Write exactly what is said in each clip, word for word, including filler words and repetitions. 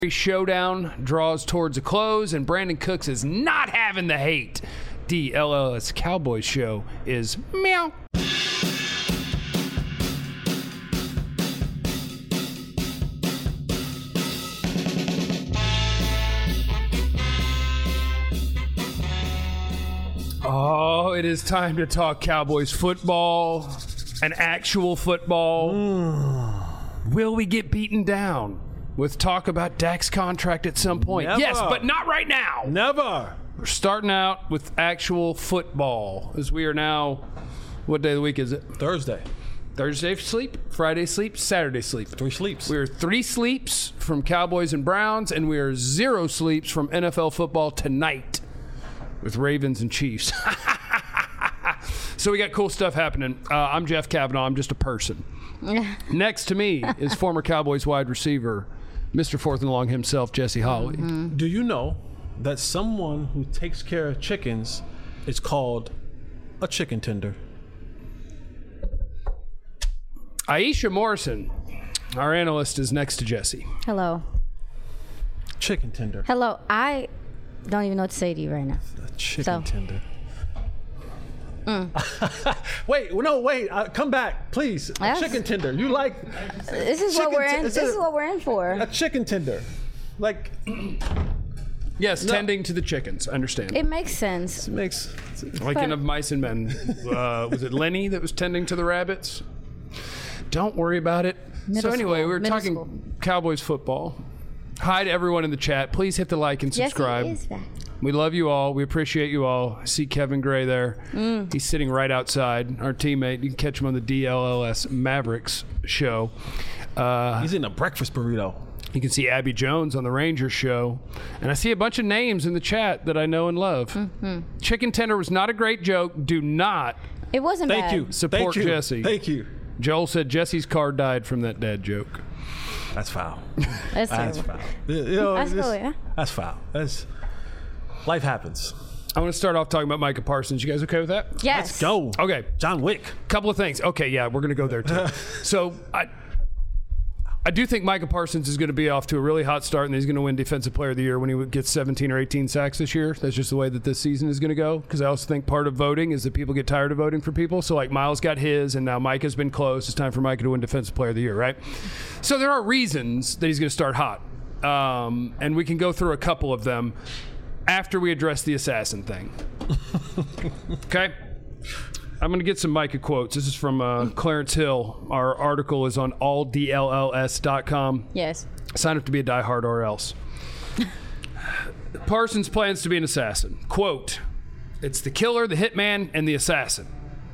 Showdown draws towards a close, and Brandon Cooks is not having the hate. D L L S Cowboys show is meow. Oh, it is time to talk Cowboys football, an actual football. Mm. Will we get beaten down? With talk about Dak's contract at some point. Never. Yes, but not right now. Never. We're starting out with actual football, as we are now, what day of the week is it? Thursday. Thursday sleep, Friday sleep, Saturday sleep. Three sleeps. We are three sleeps from Cowboys and Browns, and we are zero sleeps from N F L football tonight with Ravens and Chiefs. So we got cool stuff happening. Uh, I'm Jeff Kavanaugh. I'm just a person. Next to me is former Cowboys wide receiver, Mister Fourth and Long himself, Jesse Holley. Mm-hmm. Do you know that someone who takes care of chickens is called a chicken tender? Aisha Morrison, our analyst, is next to Jesse. Hello. Chicken tender. Hello. I don't even know what to say to you right now. A chicken So. tender. Mm. wait, no, wait. Uh, come back, please. A Yes. chicken tender. You like? This is what chicken we're in. t- This is what we're in for. A chicken tender, like Yes, No. tending to the chickens. Understand. It makes sense. it makes. Like in Of Mice and Men. Uh, was it Lenny that was tending to the rabbits? Don't worry about it. Middle so anyway, school. we were Middle talking school. Cowboys football. Hi to everyone in the chat. Please hit the like and subscribe. Yes, it is back. We love you all. We appreciate you all. I see Kevin Gray there. Mm. He's sitting right outside, our teammate. You can catch him on the D L L S Mavericks show. Uh, He's in a breakfast burrito. you can see Abby Jones on the Rangers show. And I see a bunch of names in the chat that I know and love. Mm-hmm. Chicken tender was not a great joke. Do not It wasn't Thank bad. you. support Thank you. Jesse. Thank you. Joel said Jesse's car died from that dad joke. That's foul. That's That's terrible. foul. You know, That's this- cool, yeah. That's foul. That's life happens. I want to start off talking about Micah Parsons. You guys okay with that? Yes. Let's go. Okay. John Wick. Couple of things. Okay, yeah, we're going to go there too. So I I do think Micah Parsons is going to be off to a really hot start, and he's going to win Defensive Player of the Year when he gets seventeen or eighteen sacks this year. That's just the way that this season is going to go, because I also think part of voting is that people get tired of voting for people. So like Miles got his, and now Micah's been close. It's time for Micah to win Defensive Player of the Year, right? So there are reasons that he's going to start hot, um, and we can go through a couple of them after we address the assassin thing. Okay? I'm going to get some Micah quotes. This is from uh, Clarence Hill. Our article is on all D L L S dot com. Yes. Sign up to be a diehard or else. Parsons plans to be an assassin. Quote, it's the killer, the hitman, and the assassin.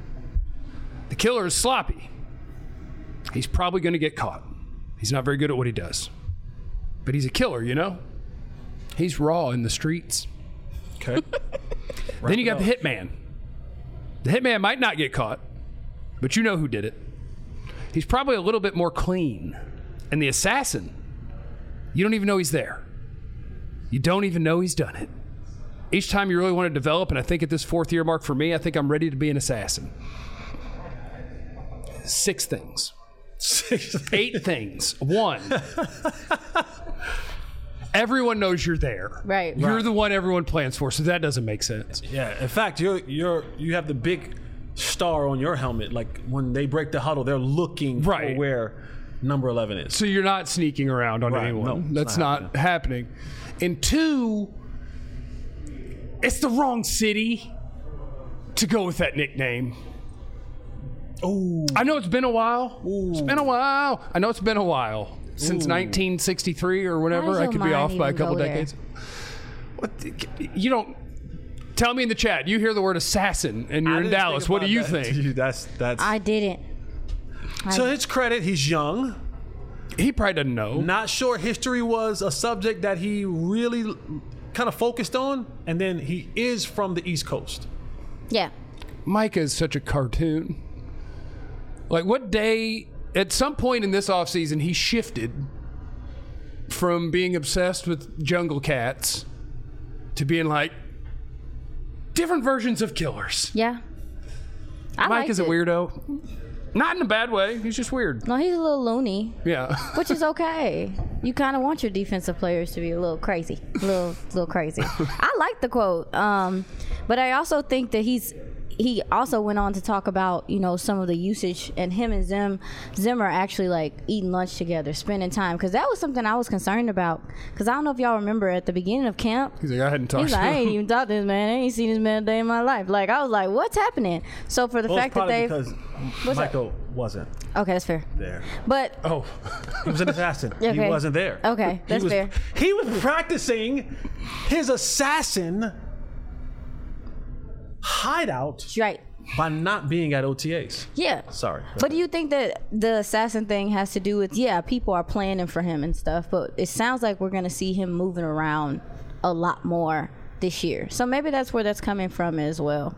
The killer is sloppy. He's probably going to get caught. He's not very good at what he does. But he's a killer, you know? He's raw in the streets. Okay. Then you got the hitman. The hitman might not get caught, but you know who did it. He's probably a little bit more clean. And the assassin, you don't even know he's there. You don't even know he's done it. Each time you really want to develop, and I think at this fourth year mark for me, I think I'm ready to be an assassin. Six things. Eight things. One. Everyone knows you're there. Right. You're Right. the one everyone plans for, so that doesn't make sense. Yeah. In fact, you're you're you have the big star on your helmet. Like when they break the huddle, they're looking Right. for where number eleven is. So you're not sneaking around on Right. anyone. No, it's That's not not, happening. And two, it's the wrong city to go with that nickname. Oh. I know it's been a while. It's been a while. I know it's been a while. Since Ooh. nineteen sixty-three or Why whatever. does I your could be mind off by a even couple go there? decades. What, you don't... Tell me in the chat. You hear the word assassin and you're I in didn't Dallas. think What do about you that. think? Dude, that's that's. I didn't. to I, his credit, he's young. He probably doesn't know. Not sure history was a subject that he really kind of focused on, and then he is from the East Coast. yeah. Micah is such a cartoon. Like, what day, at some point in this offseason, he shifted from being obsessed with jungle cats to being like, different versions of killers. Yeah. I Mike liked is a it. weirdo. Not in a bad way. He's just weird. No, he's a little loony, Yeah. which is okay. You kind of want your defensive players to be a little crazy, a little, little crazy. I like the quote, um, but I also think that he's. He also went on to talk about, you know, some of the usage, and him and Zim, Zim are actually like eating lunch together, spending time, because that was something I was concerned about. Because I don't know if y'all remember at the beginning of camp, He's like, I hadn't talked he's to like, I him. ain't even talked to this man. I ain't seen this man a day in my life. Like I was like, what's happening? So for the Well, it's fact that probably they, because What's that? Michael wasn't okay, that's fair. there. But Oh, He was an assassin. He Okay. wasn't there. Okay, that's he was, fair. He was practicing his assassin hideout right, by not being at O T As. yeah. Sorry. But do you think that the assassin thing has to do with, yeah, people are planning for him and stuff, but it sounds like we're going to see him moving around a lot more this year. So maybe that's where that's coming from as well.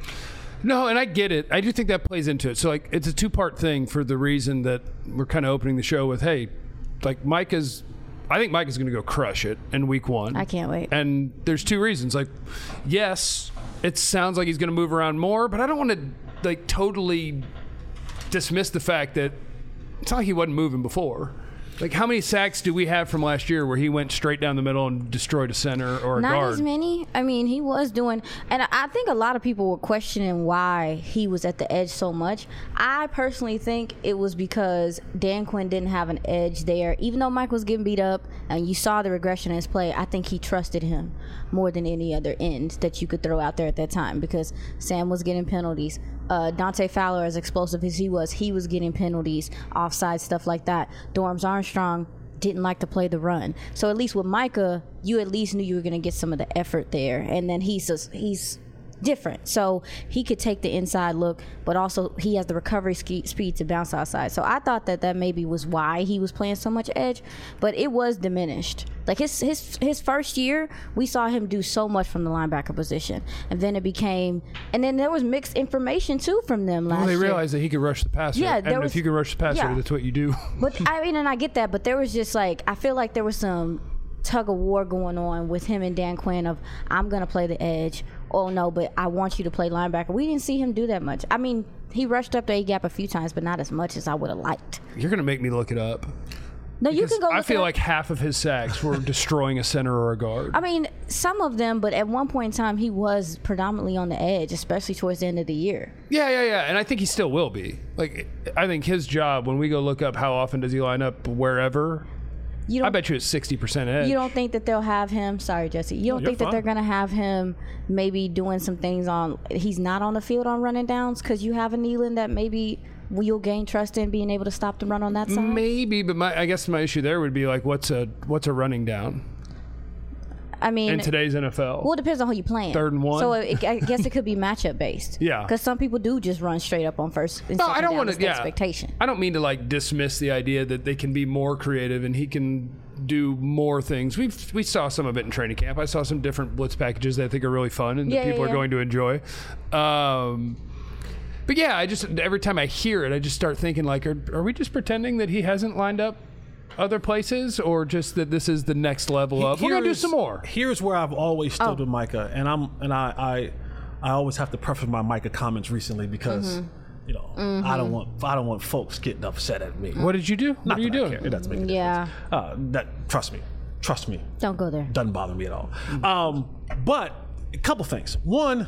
no, and I get it. I do think that plays into it. So, like, it's a two-part thing for the reason that we're kind of opening the show with, hey, like, Mike is, I think Mike is going to go crush it in week one. I can't wait. And there's two reasons. Like, yes, it sounds like he's going to move around more, but I don't want to, like, totally dismiss the fact that it's not like he wasn't moving before. Like, how many sacks do we have from last year where he went straight down the middle and destroyed a center or a Not guard? as many. I mean, he was doing, and I- I think a lot of people were questioning why he was at the edge so much. I personally think it was because Dan Quinn didn't have an edge there. Even though Mike was getting beat up and you saw the regression in his play, I think he trusted him more than any other end that you could throw out there at that time, because Sam was getting penalties. Uh, Dante Fowler, as explosive as he was, he was getting penalties, offside, stuff like that. Dorms Armstrong didn't like to play the run. So at least with Micah, you at least knew you were going to get some of the effort there. And then he's just, he's different. So he could take the inside look, but also he has the recovery ski- speed to bounce outside. So I thought that that maybe was why he was playing so much edge, but it was diminished. Like his his his first year, we saw him do so much from the linebacker position, and then it became, and then there was mixed information too from them last Well, they year. realized that he could rush the passer. Yeah, and there if was- you can rush the passer, yeah. that's what you do. But I mean, and I get that, but there was just like, I feel like there was some tug of war going on with him and Dan Quinn of, I'm gonna play the edge. Oh no, but I want you to play linebacker. We didn't see him do that much. I mean, he rushed up the A gap a few times, but not as much as I would have liked. You're going to make me look it up. No, you Because can go. I look feel it up. like half of his sacks were destroying a center or a guard. I mean, some of them, but at one point in time, he was predominantly on the edge, especially towards the end of the year. Yeah, yeah, yeah. And I think he still will be. Like, I think his job, when we go look up how often does he line up wherever, You I don't. bet you it's sixty percent edge. You don't think that they'll have him? Sorry, Jesse. You don't you're think that they're fine. gonna have him maybe doing some things on? He's not on the field on running downs because you have a Nealon that maybe you'll gain trust in being able to stop the run on that side. Maybe, but my, I guess my issue there would be like, what's a what's a running down I mean, in today's N F L? well, it depends on who you playing. Third and one? So it, I guess it could be matchup based. Yeah. Because some people do just run straight up on first. And No, second I don't down. want That's to. the Yeah, expectation. I don't mean to like dismiss the idea that they can be more creative and he can do more things. We we saw some of it in training camp. I saw some different blitz packages that I think are really fun and Yeah, that people yeah, are yeah. going to enjoy. Um, but yeah, I just every time I hear it, I just start thinking like, are, are we just pretending that he hasn't lined up other places, or just that this is the next level of? We're gonna do Here's- some more. Here's where I've always stood Oh. with Micah, and I'm and I, I I always have to preface my Micah comments recently because Mm-hmm. you know I don't want I don't want folks getting upset at me. What did you do? What Not are you that I doing? care. It doesn't make a Yeah. difference. Uh, that trust me, trust me, Don't go there. doesn't bother me at all. Um, but a couple things. One,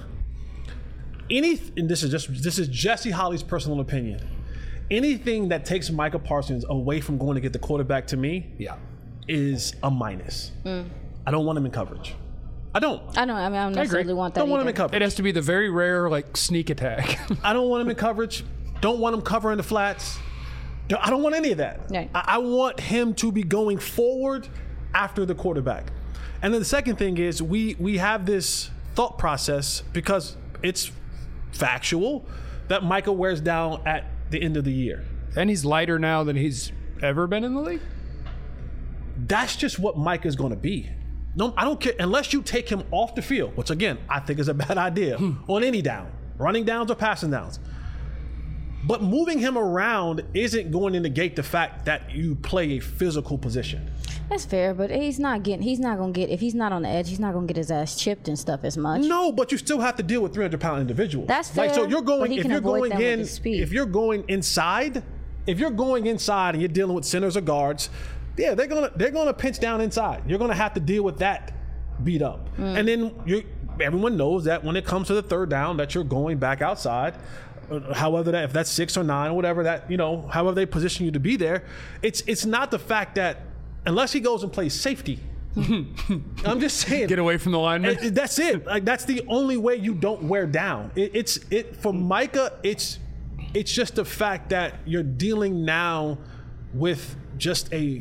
any and this is just this is Jesse Holly's personal opinion. Anything that takes Micah Parsons away from going to get the quarterback, to me, Yeah. is a minus. I don't want him in coverage. I don't. I don't. I mean, I don't agree. necessarily want that. don't want him either. in coverage. It has to be the very rare like sneak attack. I don't want him in coverage. Don't want him covering the flats. Don't- I don't want any of that. Right. I, I want him to be going forward after the quarterback. And then the second thing is we we have this thought process because it's factual that Micah wears down at the end of the year. And he's lighter now than he's ever been in the league. That's just what Micah's going to be. No, I don't care unless you take him off the field, which again I think is a bad idea on any down, running downs or passing downs. But moving him around isn't going to negate the fact that you play a physical position. That's fair, but he's not getting. He's not gonna get. If he's not on the edge, he's not gonna get his ass chipped and stuff as much. No, but you still have to deal with three hundred pound individuals. That's Like, so fair, you're but going he if can you're avoid going them with in his speed. if you're going inside, if you're going inside and you're dealing with centers or guards, yeah, they're gonna they're gonna pinch down inside. You're gonna have to deal with that beat up, mm. and then you everyone knows that when it comes to the third down, that you're going back outside. Uh, however, that if that's six or nine, or whatever that you know, however they position you to be there, it's it's not the fact that unless he goes and plays safety. I'm just saying. Get away from the lineman. It, that's it. Like that's the only way you don't wear down. It, it's it for Micah. It's it's just the fact that you're dealing now with just a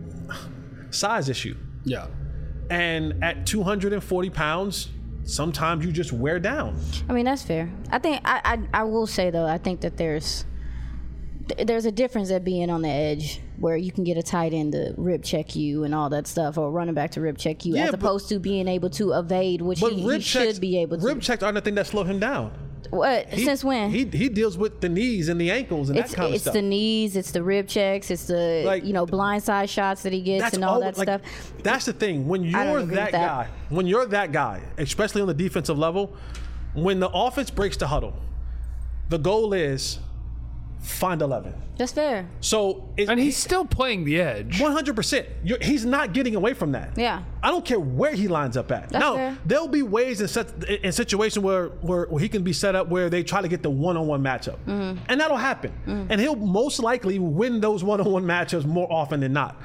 size issue. Yeah. And at two hundred forty pounds, sometimes you just wear down. I mean, that's fair. I think I I, I will say though, I think that there's there's a difference at being on the edge where you can get a tight end to rib check you and all that stuff, or running back to rib check you, yeah, as but, opposed to being able to evade, which he, he should be able to. Rib checks aren't the thing that slow him down. What? He, Since when? He he deals with the knees and the ankles and it's, that kind of it's stuff. It's the knees, it's the rib checks, it's the like, you know blindside shots that he gets and all, all that like, stuff. That's the thing. When you're that, that guy, when you're that guy, especially on the defensive level, when the offense breaks the huddle, the goal is find eleven. That's fair. So it, and he's still playing the edge. one hundred percent. You're, he's not getting away from that. Yeah. I don't care where he lines up at. That's now, fair. There'll be ways in, set, in situations where, where, where he can be set up where they try to get the one-on-one matchup. Mm-hmm. And that'll happen. Mm-hmm. And he'll most likely win those one-on-one matchups more often than not.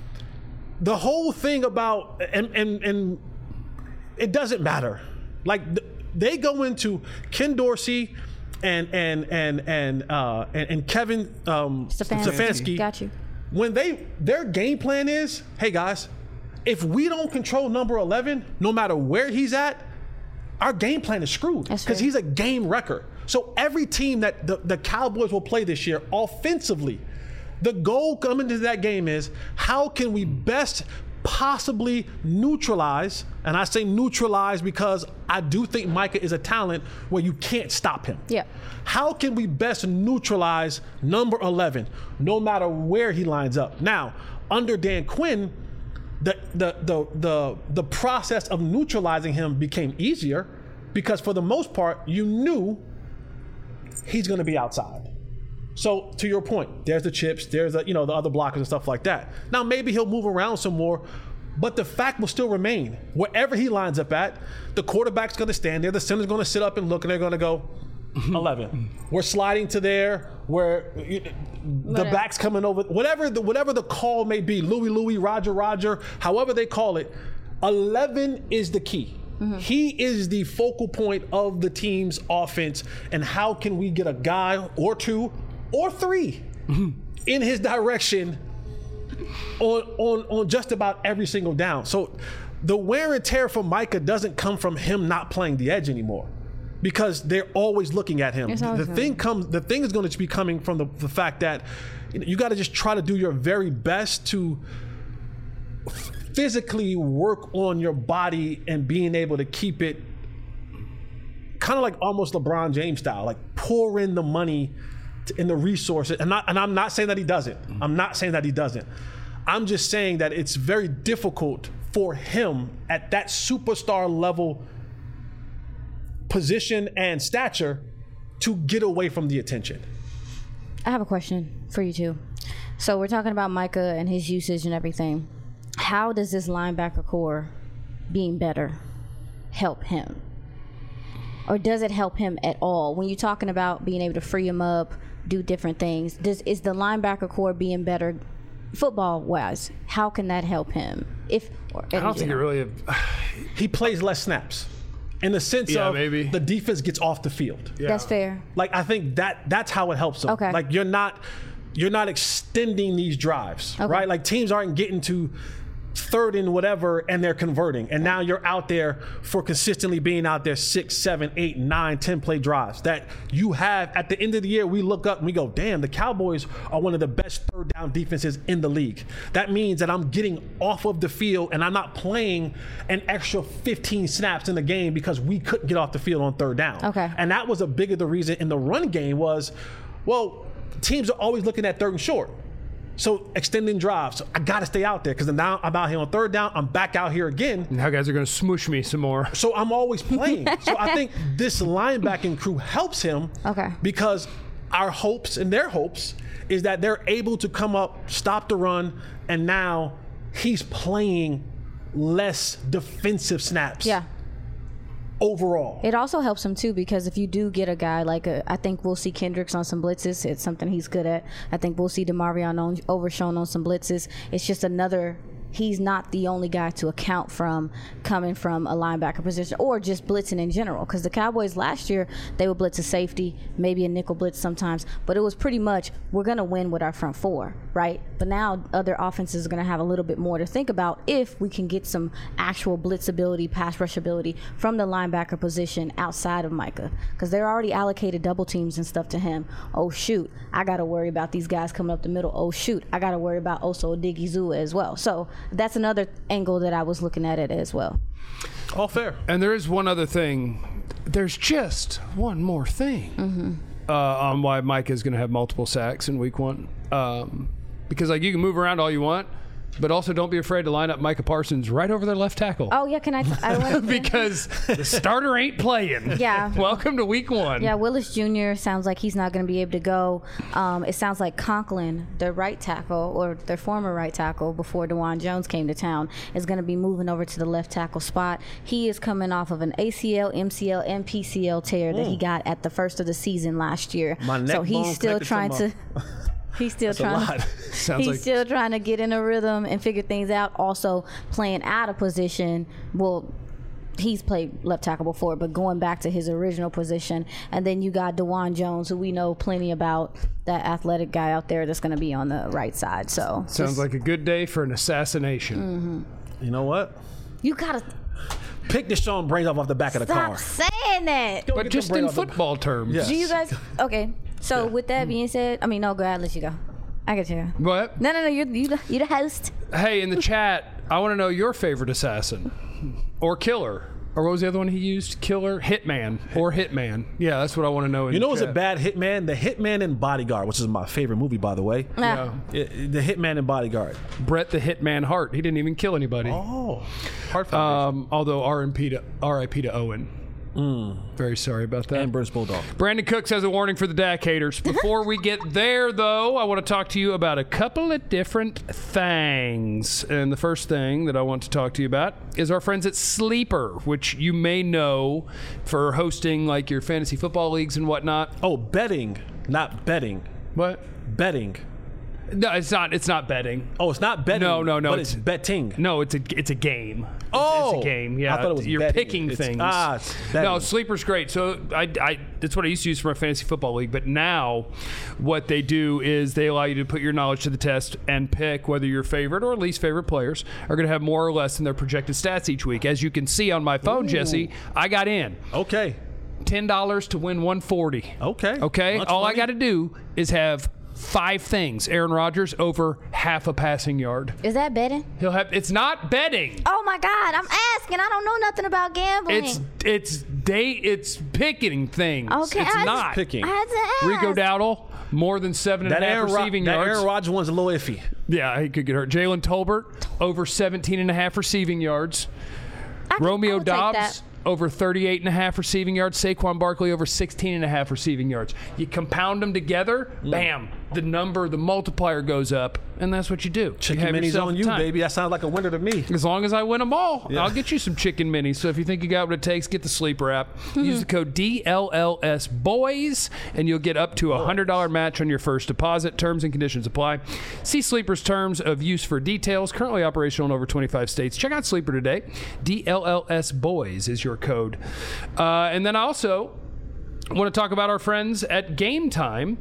The whole thing about, and, and, and it doesn't matter. Like, they go into Ken Dorsey and and and and uh, and, and Kevin um, Stefanski. Stefanski. Got you. When they their game plan is, hey guys, if we don't control number eleven, no matter where he's at, our game plan is screwed because he's a game wrecker. So every team that the, the Cowboys will play this year offensively, the goal coming to that game is how can we best possibly neutralize, and I say neutralize because I do think Micah is a talent where you can't stop him. Yeah. How can we best neutralize number eleven, no matter where he lines up? Now, under Dan Quinn, the the the the, the process of neutralizing him became easier because for the most part, you knew he's going to be outside. So to your point, there's the chips, there's the, you know the other blockers and stuff like that. Now maybe he'll move around some more, but the fact will still remain. Wherever he lines up at, the quarterback's going to stand there, the center's going to sit up and look, and they're going to go eleven. We're sliding to there, where you, the back's coming over. Whatever the whatever the call may be, Louie Louie, Roger Roger, however they call it, eleven is the key. Mm-hmm. He is the focal point of the team's offense, and how can we get a guy or two or three in his direction on, on on just about every single down. So the wear and tear for Micah doesn't come from him not playing the edge anymore, because they're always looking at him. The thing comes, the thing is going to be coming from the, the fact that you know, you got to just try to do your very best to physically work on your body and being able to keep it kind of like almost LeBron James style, like pour in the money in the resources, and, not, and I'm not saying that he doesn't. I'm not saying that he doesn't. I'm just saying that it's very difficult for him at that superstar level position and stature to get away from the attention. I have a question for you too. So we're talking about Micah and his usage and everything. How does this linebacker core being better help him? Or does it help him at all? When you're talking about being able to free him up, do different things, does is the linebacker core being better football wise? How can that help him? If or, I don't think it really. He plays less snaps, in the sense yeah, of maybe. the defense gets off the field. Yeah. That's fair. Like I think that that's how it helps him. Okay. Like you're not you're not extending these drives, okay. right? Like teams aren't getting to third and whatever and they're converting, and now you're out there for consistently being out there six, seven, eight, nine, ten play drives that you have. At the end of the year, we look up and we go, damn, the Cowboys are one of the best third down defenses in the league. That means that I'm getting off of the field and I'm not playing an extra fifteen snaps in the game because we couldn't get off the field on third down. Okay. And that was a big of the reason in the run game was, well, teams are always looking at third and short. So extending drives. So I got to stay out there because now I'm out here on third down. I'm back out here again. Now guys are going to smoosh me some more. So I'm always playing. So I think this linebacking crew helps him. Okay. Because our hopes and their hopes is that they're able to come up, stop the run, and now he's playing less defensive snaps. Yeah. Overall, it also helps him too, because if you do get a guy like a, I think we'll see Kendricks on some blitzes. It's something he's good at. I think we'll see DeMarvion on Overshown on some blitzes. It's just another. He's not the only guy to account from coming from a linebacker position or just blitzing in general. Because the Cowboys last year, they would blitz a safety, maybe a nickel blitz sometimes, but it was pretty much, we're going to win with our front four, right? But now other offenses are going to have a little bit more to think about if we can get some actual blitz ability, pass rush ability from the linebacker position outside of Micah. Because they're already allocated double teams and stuff to him. Oh, shoot, I got to worry about these guys coming up the middle. Oh, shoot, I got to worry about Osa Odigizua as well. So that's another angle that I was looking at it as well. All fair. And there is one other thing. There's just one more thing Mm-hmm. uh, on why Mike is going to have multiple sacks in week one. Um, because, like, you can move around all you want, but also don't be afraid to line up Micah Parsons right over their left tackle. Oh, yeah, can I? I wanna, because the starter ain't playing. Yeah. Welcome to week one. Yeah, Willis Junior sounds like he's not going to be able to go. Um, it sounds like Conklin, their right tackle, or their former right tackle before DeJuan Jones came to town, is going to be moving over to the left tackle spot. He is coming off of an A C L, M C L, and P C L tear that he got at the first of the season last year. My neck so he's bone still connected trying to to. He's still That's a trying. lot. To, Sounds he's like still trying to get in a rhythm and figure things out. Also playing out of position. Well, he's played left tackle before, but going back to his original position. And then you got DeJuan Jones, who we know plenty about, that athletic guy out there that's going to be on the right side. So Sounds just- like a good day for an assassination. Mm-hmm. You know what? you gotta Pick Deshaun brains off off the back of the stop car. saying that. Go But get just them in brains off the- football terms. Yeah. Do you guys? Okay. So with that being said, I mean, no, go ahead. Let you go. I got you. What? No, no, no. You're you the, you're the host. Hey, in the chat, I want to know your favorite assassin or killer. Or what was the other one he used? Killer, Hitman, or Hitman. Yeah, that's what I want to know. In You the know what's a chat. bad Hitman? The Hitman and Bodyguard, which is my favorite movie, by the way. Nah. Yeah. It- the Hitman and Bodyguard. Brett the Hitman Hart. He didn't even kill anybody. Oh. Heart Foundation. Um, although R I P to R I P to Owen. Very sorry about that. and Bruce Bulldog. Brandon Cooks has a warning for the D A C haters. Before we get there, though, I want to talk to you about a couple of different things. And the first thing that I want to talk to you about is our friends at Sleeper, which you may know for hosting like your fantasy football leagues and whatnot. Oh, betting, not betting. What? Betting. No, it's not. It's not betting. Oh, it's not betting. No, no, no, But it's- it's, betting. No, it's a it's a game. It's- Oh, it's a game. Yeah, I thought it was you're betting. picking It's- things. ah, it's betting. No, Sleeper's great. So I, I that's what I used to use for my fantasy football league. But now, what they do is they allow you to put your knowledge to the test and pick whether your favorite or least favorite players are going to have more or less in their projected stats each week. As you can see on my phone, Ooh. Jesse, I got in Okay. ten dollars to win one forty. Okay. Okay. Much All I money. got to do is have five things. Aaron Rodgers over half a passing yard. Is that betting? He'll have. It's not betting. Oh my God! I'm asking. I don't know nothing about gambling. It's it's day. It's picking things. Okay, It's I just- not Picking. I had to ask. Rico Dowdle more than seven and That a half Aaron, Ro- receiving that yards. Aaron Rodgers one's a little iffy. Yeah, he could get hurt. Jalen Tolbert over seventeen and a half receiving yards. I can- I Romeo will take Dobbs that. over thirty-eight and a half receiving yards. Saquon Barkley over sixteen and a half receiving yards. You compound them together, bam, the number, the multiplier goes up, and that's what you do. Chicken you have minis yourself on a you, time. baby. That sounds like a winner to me. As long as I win them all, I'll get you some chicken minis. So if you think you got what it takes, get the Sleeper app. Use the code D L L S boys, and you'll get up to a one hundred dollars match on your first deposit. Terms and conditions apply. See Sleeper's terms of use for details. Currently operational in over twenty-five states. Check out Sleeper today. D L L S boys is your code. Uh, and then also, I want to talk about our friends at Game Time,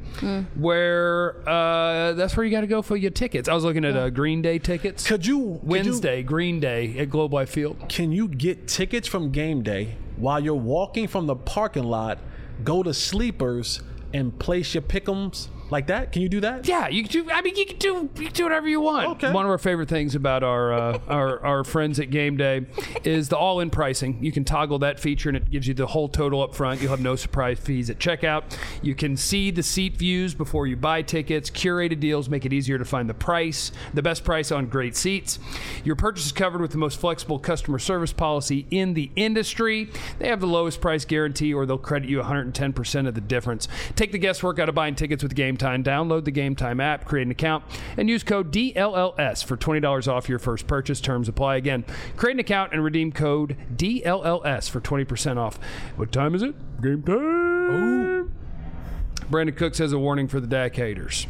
where uh, that's where you got to go for your tickets. I was looking at uh, Green Day tickets. Could you could you- Wednesday, Green Day at Globe Life Field. Can you get tickets from game day while you're walking from the parking lot? Go to Sleepers and place your pick'ems like that? Can you do that? Yeah, you can do. I mean, you can do. You can do whatever you want. Okay. One of our favorite things about our uh, our our friends at Game Day is the all-in pricing. You can toggle that feature, and it gives you the whole total up front. You'll have no surprise fees at checkout. You can see the seat views before you buy tickets. Curated deals make it easier to find the price, the best price on great seats. Your purchase is covered with the most flexible customer service policy in the industry. They have the lowest price guarantee, or they'll credit you one hundred ten percent of the difference. Take the guesswork out of buying tickets with Game Time. Download the Game Time app, create an account, and use code D L L S for twenty dollars off your first purchase. Terms apply. Again, create an account and redeem code D L L S for twenty percent off. What time is it? Game time. Ooh. Brandon Cooks has a warning for the Dak haters.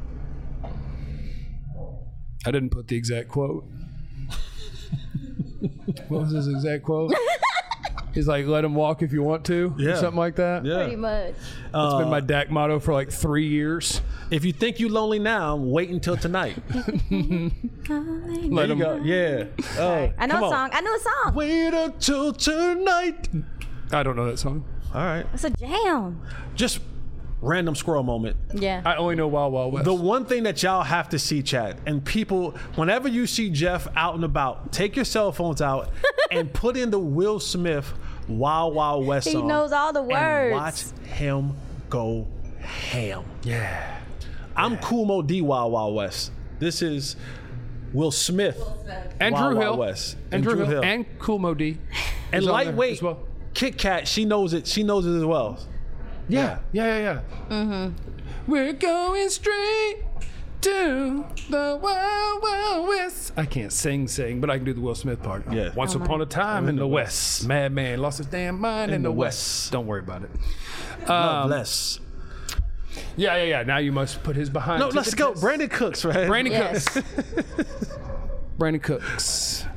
I didn't put the exact quote. What was his exact quote? He's like, let him walk if you want to, Yeah. or something like that. Yeah. Pretty much. That's been my Dak motto for like three years. If you think you're lonely now, wait until tonight. Let There you him go. Yeah. Oh, I know come a on. song. I know a song. Wait until tonight. I don't know that song. All right. It's a jam. Just random squirrel moment. Yeah. I only know Wild Wild West. The one thing that y'all have to see, Chad, and people, whenever you see Jeff out and about, take your cell phones out and put in the Will Smith Wild Wild West He song. knows all the And words. watch him go ham. yeah. I'm Cool Mo D Wild Wild West. This is Will Smith. And Wild Drew Wild Hill. West. And Drew Hill. And Cool Mo D. And is on there lightweight as well. Kit Kat, she knows it. She knows it as well. Yeah. Yeah, yeah, yeah. Mm-hmm. We're going straight to the Wild Wild West. I can't sing, sing, but I can do the Will Smith part. Yeah. Once Oh, upon my. a time in the West, madman lost his damn mind in, In the the West. West. Don't worry about it. Love Um, less. Yeah, yeah, yeah. Now you must put his behind. No, to let's the go. test. Brandon Cooks, right? Brandon Yes. Cooks. Brandon Cooks.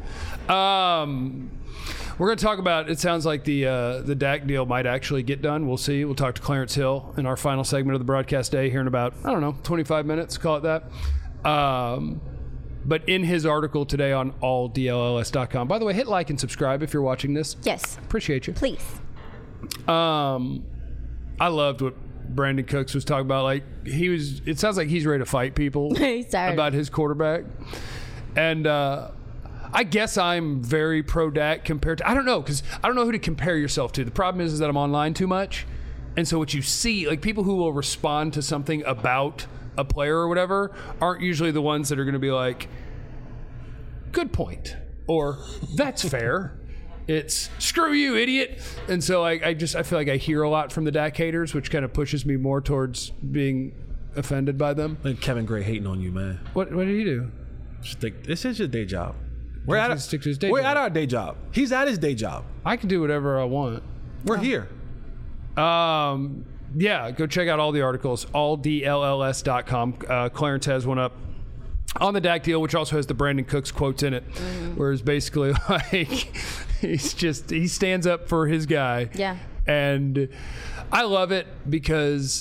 Um, we're going to talk about. It sounds like the uh, the Dak deal might actually get done. We'll see. We'll talk to Clarence Hill in our final segment of the broadcast day here in about I don't know twenty-five minutes. Call it that. Um, but in his article today on all D L L S dot com. By the way, hit like and subscribe if you're watching this. Yes. Appreciate you. Please. Um, I loved what Brandon Cooks was talking about. Like he was. It sounds like he's ready to fight people. He's tired. About his quarterback. And uh, I guess I'm very pro Dak compared to, I don't know, because I don't know who to compare yourself to. The problem is, is that I'm online too much. And so what you see, like people who will respond to something about a player or whatever aren't usually the ones that are going to be like, good point. Or that's fair. It's screw you, idiot. And so I, I just, I feel like I hear a lot from the Dak haters, which kind of pushes me more towards being offended by them. Like Kevin Gray hating on you, man. What, what did he do? Stick, this is your day job. We're, He at, should stick to his day we're job. at our day job. He's at his day job. I can do whatever I want. We're here. Um, yeah, go check out all the articles, all D L L S dot com. Uh, Clarence has one up on the Dak deal, which also has the Brandon Cooks quotes in it, Mm-hmm. where it's basically like he's just he stands up for his guy. Yeah. And I love it because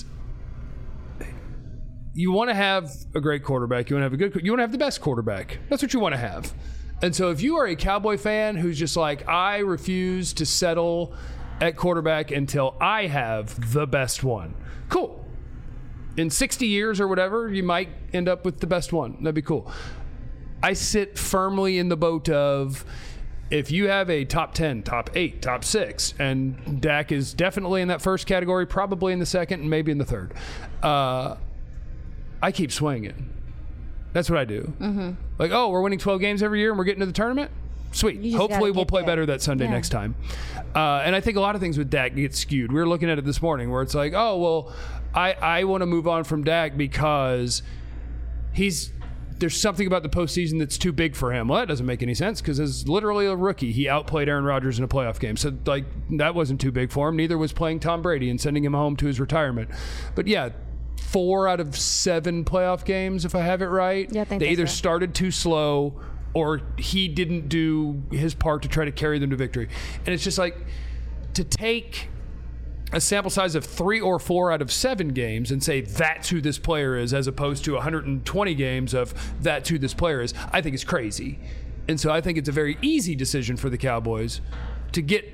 you want to have a great quarterback. You want to have a good. You want to have the best quarterback. That's what you want to have. And so, if you are a Cowboy fan who's just like, I refuse to settle at quarterback until I have the best one, cool. In sixty years or whatever, you might end up with the best one. That'd be cool. I sit firmly in the boat of if you have a top ten, top eight, top six, and Dak is definitely in that first category, probably in the second, and maybe in the third, uh, I keep swinging. That's what I do. Mm-hmm. Like, oh, we're winning twelve games every year and we're getting to the tournament? Sweet. You just Hopefully gotta we'll get play there. better that Sunday Yeah. next time. Uh, and I think a lot of things with Dak get skewed. We were looking at it this morning where it's like, oh, well, I, I want to move on from Dak because he's there's something about the postseason that's too big for him. Well, that doesn't make any sense because as literally a rookie, he outplayed Aaron Rodgers in a playoff game. So, like, that wasn't too big for him. Neither was playing Tom Brady and sending him home to his retirement. But, yeah, four out of seven playoff games, if I have it right, Yeah, I think they that's either right. started too slow or he didn't do his part to try to carry them to victory. And it's just like to take a sample size of three or four out of seven games and say that's who this player is as opposed to one hundred twenty games of that's who this player is, I think is crazy. And so I think it's a very easy decision for the Cowboys to get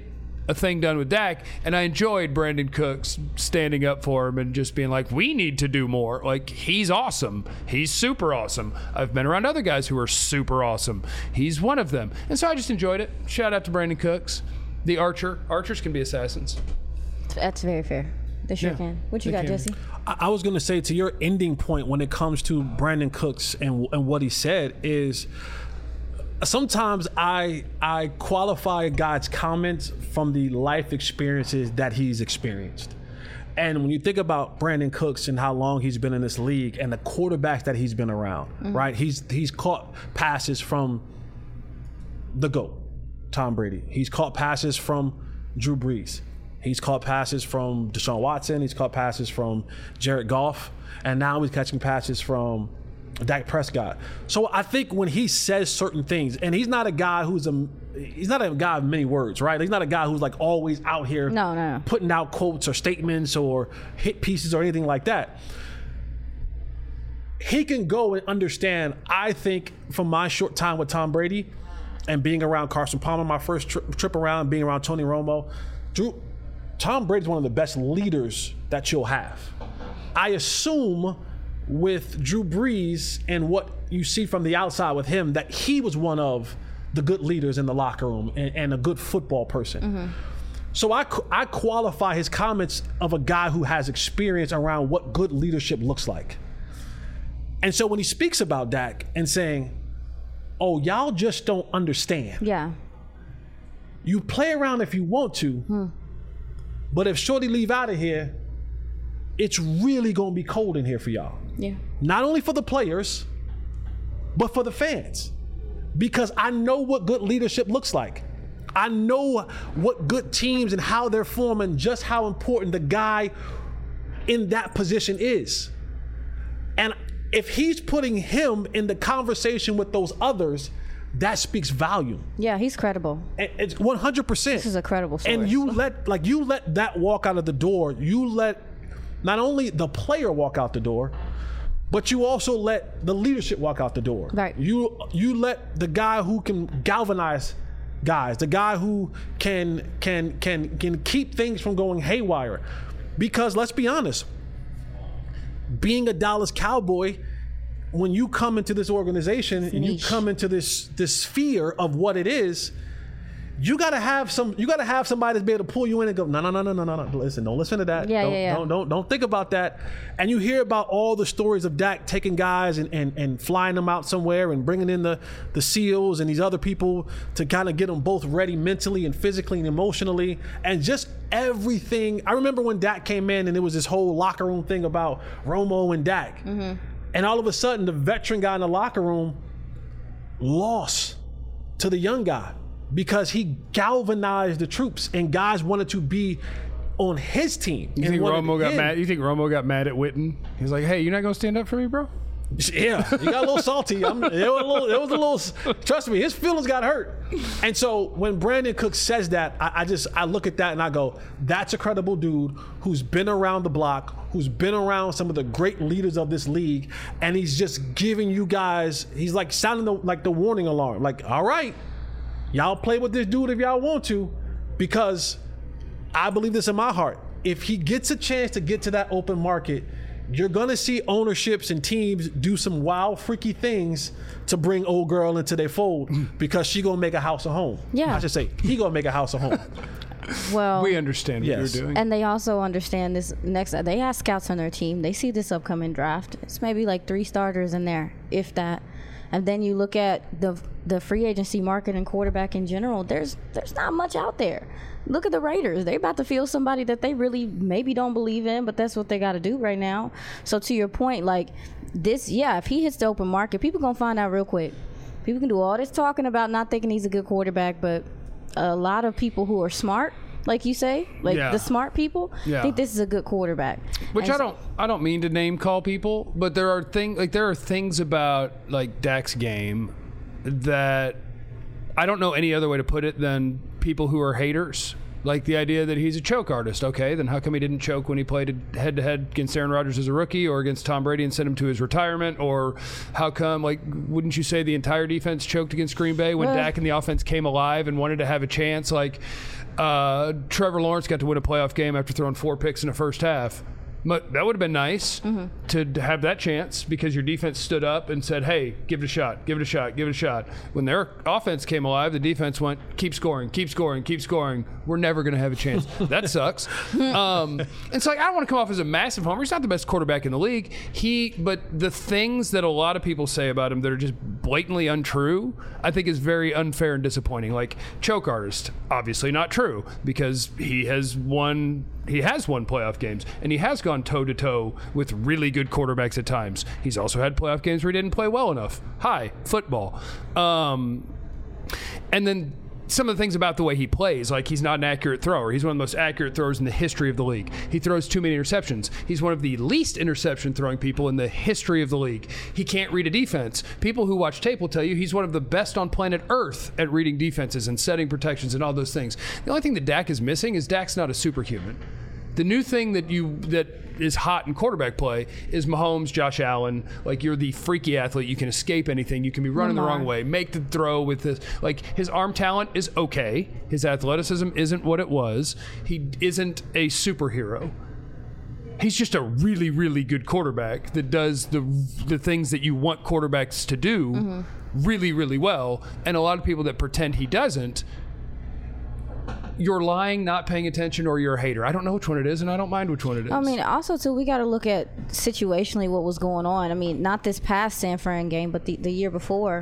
a thing done with Dak, and I enjoyed Brandon Cooks standing up for him and just being like, we need to do more. Like, he's awesome. He's super awesome. I've been around other guys who are super awesome. He's one of them. And so I just enjoyed it. Shout out to Brandon Cooks. The Archer. Archers can be assassins. That's very fair. They sure Yeah, can. What you they got, can. Jesse? I, I was going to say, to your ending point when it comes to Brandon Cooks and and what he said is, sometimes I I qualify a guy's comments from the life experiences that he's experienced. And when you think about Brandon Cooks and how long he's been in this league and the quarterbacks that he's been around, mm-hmm. right? He's he's caught passes from the GOAT, Tom Brady. He's caught passes from Drew Brees. He's caught passes from Deshaun Watson. He's caught passes from Jared Goff. And now he's catching passes from Dak Prescott. So I think when he says certain things, and he's not a guy who's a he's not a guy of many words, right? He's not a guy who's like always out here no, no, no. putting out quotes or statements or hit pieces or anything like that. He can go and understand, I think, from my short time with Tom Brady and being around Carson Palmer, my first tri- trip around, being around Tony Romo, Drew, Tom Brady's one of the best leaders that you'll have. I assume with Drew Brees and what you see from the outside with him, that he was one of the good leaders in the locker room and, and a good football person. Mm-hmm. So I, I qualify his comments of a guy who has experience around what good leadership looks like. And so when he speaks about Dak and saying, oh, y'all just don't understand. Yeah. You play around if you want to, hmm. but if Shorty leave out of here, it's really going to be cold in here for y'all. Yeah. Not only for the players, but for the fans. Because I know what good leadership looks like. I know what good teams and how they're forming, just how important the guy in that position is. And if he's putting him in the conversation with those others, that speaks volume. Yeah, he's credible. And it's one hundred percent. This is a credible source. And you let like you let that walk out of the door. You let not only the player walk out the door, but you also let the leadership walk out the door. Right. You you let the guy who can galvanize guys, the guy who can can can can keep things from going haywire. Because let's be honest, being a Dallas Cowboy, when you come into this organization and you come into this this sphere of what it is, you gotta have some. You gotta have somebody that's be able to pull you in and go, no, no, no, no, no, no, no. Listen, don't listen to that. Yeah, don't, yeah, yeah. Don't, don't, don't think about that. And you hear about all the stories of Dak taking guys and, and, and flying them out somewhere and bringing in the the SEALs and these other people to kind of get them both ready mentally and physically and emotionally and just everything. I remember when Dak came in and there was this whole locker room thing about Romo and Dak, mm-hmm. and all of a sudden the veteran guy in the locker room lost to the young guy. Because he galvanized the troops and guys wanted to be on his team. You think Romo got mad? You think Romo got mad at Witten? He's like, "Hey, you're not gonna stand up for me, bro?" Yeah, he got a little salty. I'm, it, was a little, it was a little. Trust me, his feelings got hurt. And so when Brandon Cooks says that, I, I just I look at that and I go, "That's a credible dude who's been around the block, who's been around some of the great leaders of this league, and he's just giving you guys. He's like sounding the, like the warning alarm. Like, all right." Y'all play with this dude if y'all want to, because I believe this in my heart. If he gets a chance to get to that open market, you're going to see ownerships and teams do some wild, freaky things to bring old girl into their fold because she going to make a house a home. Yeah. I should say, he going to make a house a home. Well, we understand what yes. you're doing. And they also understand this next, they have scouts on their team. They see this upcoming draft. It's maybe like three starters in there, if that. And then you look at the the free agency market and quarterback in general, there's there's not much out there. Look at the Raiders. They're about to field somebody that they really maybe don't believe in, but that's what they got to do right now. So to your point, like this, yeah, if he hits the open market, people going to find out real quick. People can do all this talking about not thinking he's a good quarterback, but a lot of people who are smart, like you say, like yeah. the smart people, yeah. think this is a good quarterback. Which and I don't, I don't mean to name call people, but there are things like there are things about like Dak's game that I don't know any other way to put it than people who are haters. Like the idea that he's a choke artist. Okay, then how come he didn't choke when he played head to head against Aaron Rodgers as a rookie, or against Tom Brady and sent him to his retirement? Or how come, like, wouldn't you say the entire defense choked against Green Bay when well, Dak and the offense came alive and wanted to have a chance? Like, uh, Trevor Lawrence got to win a playoff game after throwing four picks in the first half. But that would have been nice mm-hmm. to have that chance because your defense stood up and said, hey, give it a shot, give it a shot, give it a shot. When their offense came alive, the defense went, keep scoring, keep scoring, keep scoring. We're never going to have a chance. That sucks. Um, and so like, I don't want to come off as a massive homer. He's not the best quarterback in the league. He, but the things that a lot of people say about him that are just blatantly untrue, I think is very unfair and disappointing. Like choke artist, obviously not true because he has won He has won playoff games, and he has gone toe-to-toe with really good quarterbacks at times. He's also had playoff games where he didn't play well enough. Hi, football. Um, and then some of the things about the way he plays, like he's not an accurate thrower. He's one of the most accurate throwers in the history of the league. He throws too many interceptions. He's one of the least interception-throwing people in the history of the league. He can't read a defense. People who watch tape will tell you he's one of the best on planet Earth at reading defenses and setting protections and all those things. The only thing that Dak is missing is Dak's not a superhuman. The new thing that you that is hot in quarterback play is Mahomes, Josh Allen. Like you're the freaky athlete. You can escape anything. You can be running Lamar. the wrong way. Make the throw with this. Like his arm talent is okay. His athleticism isn't what it was. He isn't a superhero. He's just a really, really good quarterback that does the the things that you want quarterbacks to do mm-hmm. really, really well. And a lot of people that pretend he doesn't, you're lying, not paying attention, or you're a hater. I don't know which one it is, and I don't mind which one it is. I mean, also, too, we got to look at situationally what was going on. I mean, not this past San Fran game, but the, the year before,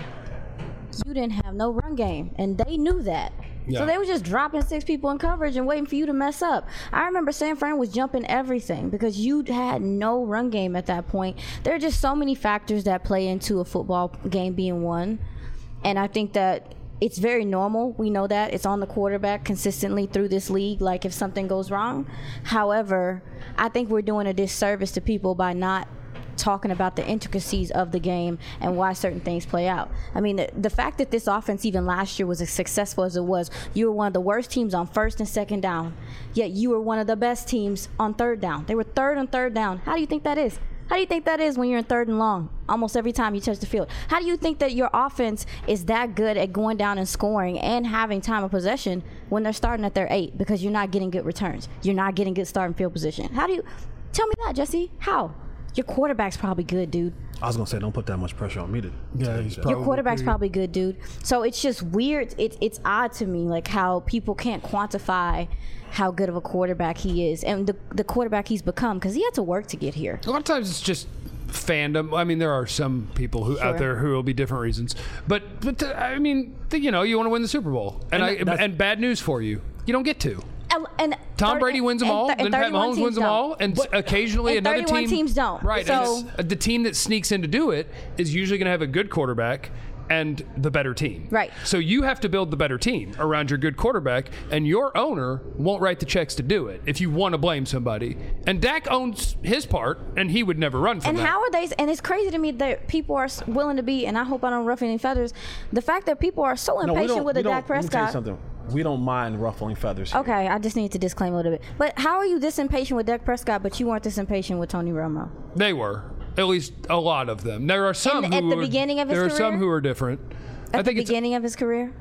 you didn't have no run game, and they knew that. Yeah. So they were just dropping six people in coverage and waiting for you to mess up. I remember San Fran was jumping everything because you had no run game at that point. There are just so many factors that play into a football game being won, and I think that it's very normal. We know that. It's on the quarterback consistently through this league, like if something goes wrong. However, I think we're doing a disservice to people by not talking about the intricacies of the game and why certain things play out. I mean, the, the fact that this offense even last year was as successful as it was, you were one of the worst teams on first and second down, yet you were one of the best teams on third down. They were third and third down. How do you think that is? How do you think that is when you're in third and long almost every time you touch the field? How do you think that your offense is that good at going down and scoring and having time of possession when they're starting at their eight because you're not getting good returns? You're not getting good starting field position. How do you – tell me that, Jesse. How? Your quarterback's probably good, dude. I was going to say, don't put that much pressure on me to yeah, he's probably Your quarterback's pretty probably good, dude. So it's just weird. It, it's odd to me, like how people can't quantify – how good of a quarterback he is and the the quarterback he's become because he had to work to get here. A lot of times it's just fandom. I mean, there are some people who Sure. out there who will be different reasons, but but uh, I mean, the, you know, you want to win the Super Bowl, and And I, that's- and bad news for you, you don't get to. And, and Tom thirty- Brady wins them and all, th- and then Pat thirty-one Mahomes teams wins them don't. all, and occasionally and another thirty-one team. teams don't. Right, So- and it's, the team that sneaks in to do it is usually going to have a good quarterback and the better team. Right. So you have to build the better team around your good quarterback, and your owner won't write the checks to do it if you want to blame somebody. And Dak owns his part, and he would never run from And that. how are they? And it's crazy to me that people are s- willing to be. And I hope I don't ruffle any feathers. The fact that people are so No, we impatient don't, with we a don't, Dak let me tell you Prescott. something. We don't mind ruffling feathers here. Okay, I just need to disclaim a little bit. But how are you this impatient with Dak Prescott, but you weren't this impatient with Tony Romo? They were. At least a lot of them. There are some In- who at the are, beginning of his there are some career? who are different. At I think the it's beginning of his career?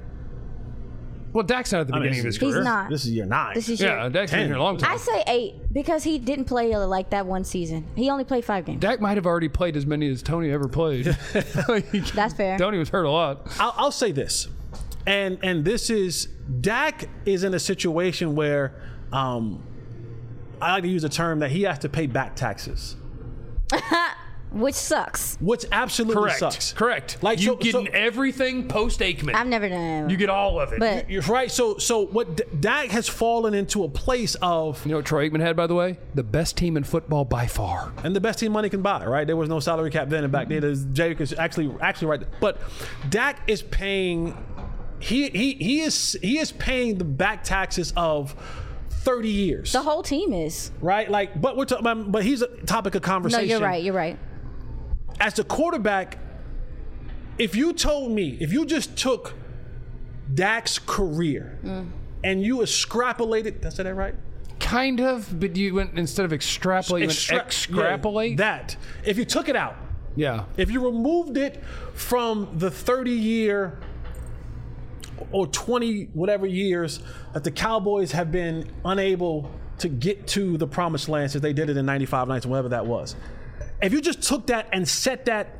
well, Dak's not at the I mean, beginning of his this- He's career. not. This is year nine. This is Yeah, your, Dak's been ten. here a long time. I say eight because he didn't play like that one season. He only played five games. Dak might have already played as many as Tony ever played. Like, That's fair. Tony was hurt a lot. I'll, I'll say this, and and this is Dak is in a situation where um, I like to use a term that he has to pay back taxes, Which sucks. which absolutely Correct. sucks. Correct. Like, you so- get so- everything post Aikman. I've never done that. You get all of it. But You're right. So so what D- Dak has fallen into a place of, you know what Troy Aikman had, by the way? The best team in football by far. and the best team money can buy, right? There was no salary cap then, and back then, there's Jake is actually actually right. But Dak is paying. He he he is he is paying the back taxes of thirty years, the whole team is. right? Like, but we're talking. But he's a topic of No, conversation. you're right. You're right. As the quarterback, if you told me, if you just took Dak's career Mm. and you extrapolated, did I say that right? Kind of, but you went, instead of extrapolate, you went Extra- extrapolate. yeah, that. If you took it out, yeah. if you removed it from the thirty-year or twenty whatever years that the Cowboys have been unable to get to the promised land since they did it in ninety-five, ninety, whatever that was. If you just took that and set that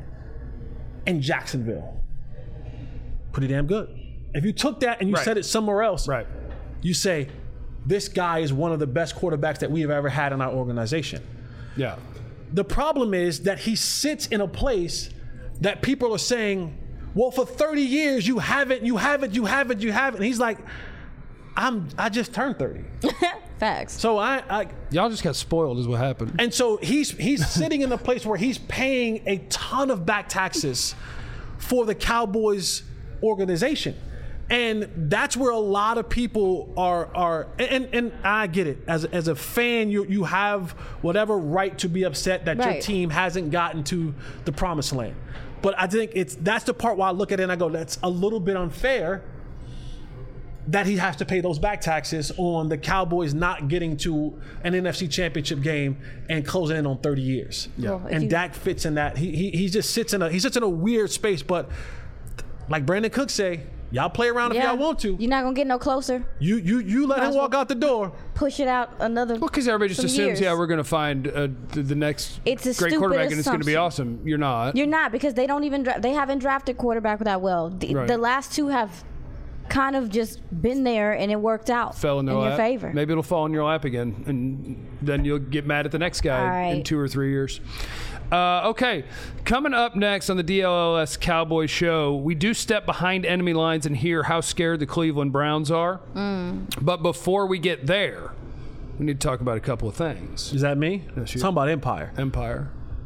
in Jacksonville, pretty damn good. If you took that and you Right. set it somewhere else, Right. you say, this guy is one of the best quarterbacks that we have ever had in our organization. Yeah. The problem is that he sits in a place that people are saying, well, for thirty years, you haven't, you haven't, you haven't, you haven't. And he's like, I'm, I just turned thirty. Facts. So I, I, Y'all just got spoiled is what happened. and so he's he's sitting in a place where he's paying a ton of back taxes for the Cowboys organization. And that's where a lot of people are are and, and I get it. As as a fan, you you have whatever right to be upset that your Right. team hasn't gotten to the promised land. But I think it's that's the part where I look at it and I go, that's a little bit unfair that he has to pay those back taxes on the Cowboys not getting to an N F C Championship game and closing in on thirty years. Yeah. Well, if And you- Dak fits in that. He, he he just sits in a he sits in a weird space. But like Brandon Cook say, y'all play around if Yeah. y'all want to. You're not gonna get no closer. You you you let Might him as walk well- out the door. Push it out another. Well, because everybody just some assumes, years. yeah, we're going to find uh, the, the next It's a great stupid quarterback and it's going to be assumption. awesome. You're not. You're not, because they don't even dra- they haven't drafted quarterback that well. The, Right. the last two have kind of just been there and it worked out Fell in, their your lap. favor. Maybe it'll fall in your lap again, and then you'll get mad at the next guy All in right. two or three years. Uh, okay, coming up next on the D L L S Cowboys show, we do step behind enemy lines and hear how scared the Cleveland Browns are. Mm. But before we get there, we need to talk about a couple of things. Is that me? Yes, you- Talking about Empire. Empire.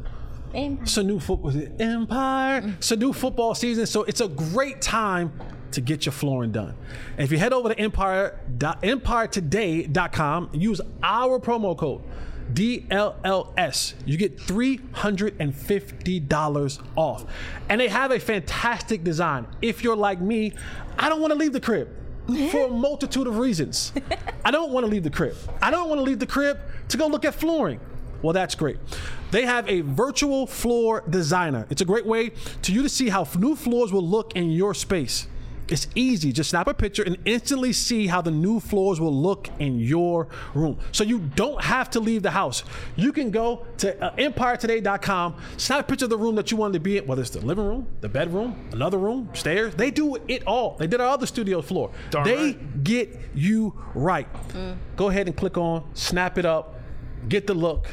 And It's a new football Empire. It's a new football season, so it's a great time to get your flooring done. And if you head over to empire empire today dot com and use our promo code D L L S, you get three hundred fifty dollars off. And they have a fantastic design. If you're like me, I don't want to leave the crib for a multitude of reasons. I don't want to leave the crib. I don't want to leave the crib to go look at flooring. Well, that's great. They have a virtual floor designer. It's a great way to you to see how new floors will look in your space. It's easy. Just snap a picture and instantly see how the new floors will look in your room. So you don't have to leave the house. You can go to uh, empire today dot com, snap a picture of the room that you wanted to be in, whether it's the living room, the bedroom, another room, stairs. They do it all. They did our other studio floor. Darn they right. get you right. Go ahead and click on, snap it up, get the look,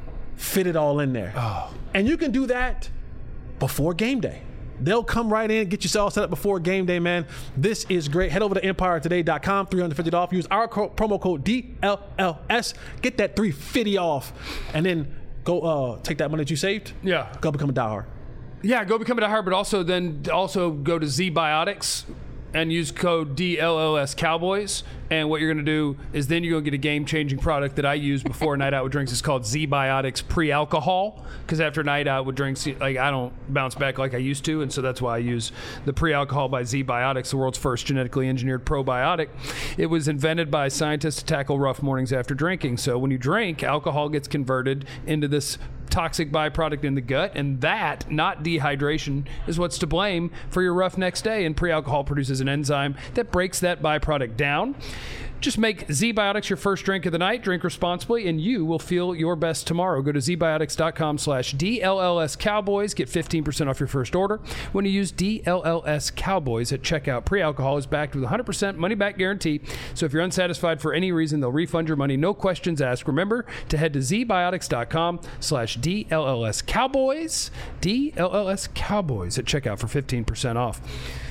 fit it all in there. Oh. And you can do that before game day. They'll come right in, get you all set up before game day, man. This is great. Head over to empire today dot com, three hundred fifty dollars off. Use our co- promo code D L L S. Get that three hundred fifty dollars off. And then go uh, take that money that you saved. Yeah. Go become a diehard. Yeah, go become a diehard, but also then also go to Z Biotics and use code D L L S Cowboys. And what you're going to do is then you're going to get a game-changing product that I use before a night out with drinks. It's called Z Biotics Pre-Alcohol, because after a night out with drinks, like I don't bounce back like I used to, and so that's why I use the Pre-Alcohol by Z Biotics, the world's first genetically engineered probiotic. It was invented by scientists to tackle rough mornings after drinking. So when you drink, alcohol gets converted into this toxic byproduct in the gut, and that, not dehydration, is what's to blame for your rough next day. And pre-alcohol produces an enzyme that breaks that byproduct down. Just make Z-Biotics your first drink of the night. Drink responsibly, and you will feel your best tomorrow. Go to Z Biotics dot com slash D L L S Cowboys. Get fifteen percent off your first order when you use D L L S Cowboys at checkout. Pre-alcohol is backed with a one hundred percent money-back guarantee. So if you're unsatisfied for any reason, they'll refund your money. No questions asked. Remember to head to Z Biotics dot com slash D L L S Cowboys. D L L S Cowboys at checkout for fifteen percent off.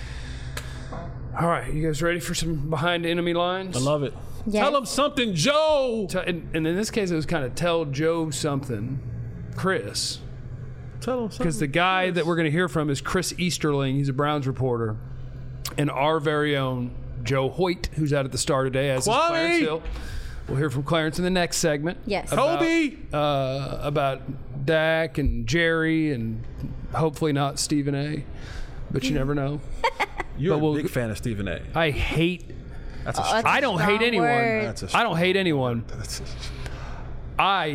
All right, you guys ready for some behind enemy lines? I love it. Yes. Tell them something, Joe. Tell- And, and in this case, it was kind of tell Joe something, Chris. Tell them something. Because the guy that we're going to hear from is Chris Easterling. He's a Browns reporter. And our very own Joe Hoyt, who's out at the Star today, as is Kwame! Clarence Hill. We'll hear from Clarence in the next segment. Yes. About, Kobe. Uh, about Dak and Jerry and hopefully not Stephen A. But you never know. You're but a we'll- big fan of Stephen A. I hate That's a that's I don't Strong hate anyone. word. That's a I don't hate anyone. That's a, I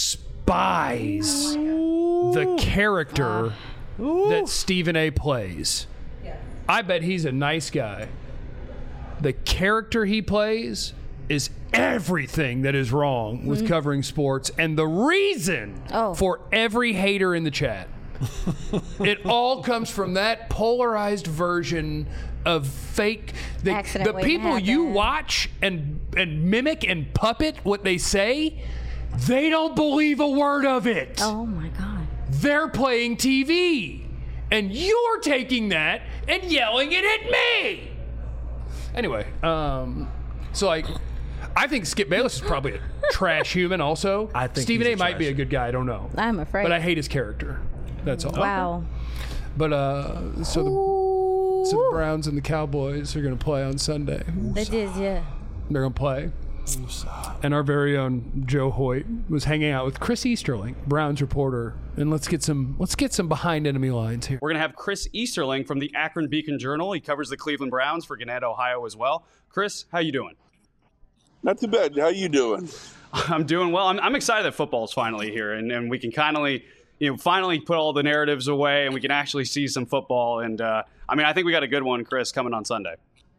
despise the character that Stephen A plays. I bet he's a nice guy. The character he plays is everything that is wrong with mm-hmm. covering sports and the reason oh. for every hater in the chat. It all comes from that polarized version of fake. The, the people you watch and and mimic and puppet what they say, they don't believe a word of it. Oh my God. They're playing T V. And you're taking that and yelling it at me. Anyway, um, so like, I think Skip Bayless is probably a trash human also. I think Stephen A. A. might be a good guy. I don't know. I'm afraid. But I hate his character. That's all. Wow. But uh, so the, so the Browns and the Cowboys are going to play on Sunday. They did, yeah. They're going to play. And our very own Joe Hoyt was hanging out with Chris Easterling, Browns reporter, and let's get some let's get some behind enemy lines here. We're gonna have Chris Easterling from the Akron Beacon Journal. He covers the Cleveland Browns for Gannett, Ohio, as well. Chris, how you doing? Not too bad. How you doing? I'm doing well. I'm, I'm excited that football's finally here, and, and we can finally, you know, finally put all the narratives away, and we can actually see some football. And uh, I mean, I think we got a good one, Chris, coming on Sunday.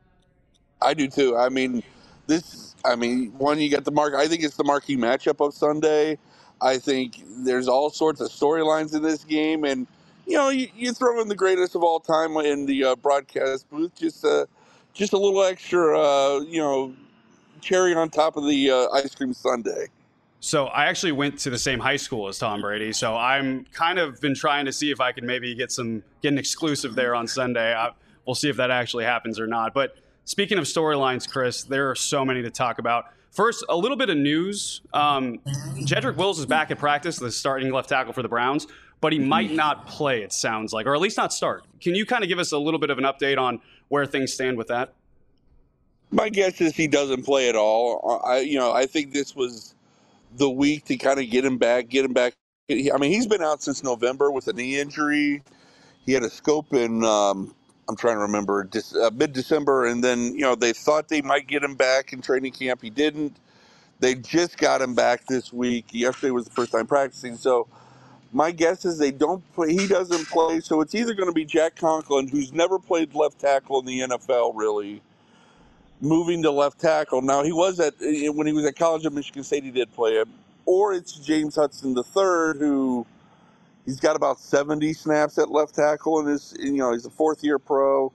I do too. I mean, this. I mean, one, you got the mark. I think it's the marquee matchup of Sunday. I think there's all sorts of storylines in this game, and you know, you, you throw in the greatest of all time in the uh, broadcast booth, just uh, just a little extra, uh, you know, cherry on top of the uh, ice cream sundae. So I actually went to the same high school as Tom Brady, so I'm kind of been trying to see if I can maybe get some get an exclusive there on Sunday. I, we'll see if that actually happens or not, but. Speaking of storylines, Chris, there are so many to talk about. First, a little bit of news. Um, Jedrick Wills is back at practice, the starting left tackle for the Browns, but he might not play, it sounds like, or at least not start. Can you kind of give us a little bit of an update on where things stand with that? My guess is he doesn't play at all. I, you know, I think this was the week to kind of get him back, get him back. I mean, he's been out since November with a knee injury. He had a scope in um, – I'm trying to remember, uh, mid-December, and then, you know, they thought they might get him back in training camp. He didn't. They just got him back this week. Yesterday was the first time practicing. So my guess is they don't play. He doesn't play. So it's either going to be Jack Conklin, who's never played left tackle in the N F L, really, moving to left tackle. Now, he was at, when he was at college at Michigan State, he did play it. Or it's James Hudson the third, who... He's got about seventy snaps at left tackle, and his, you know, he's a fourth-year pro,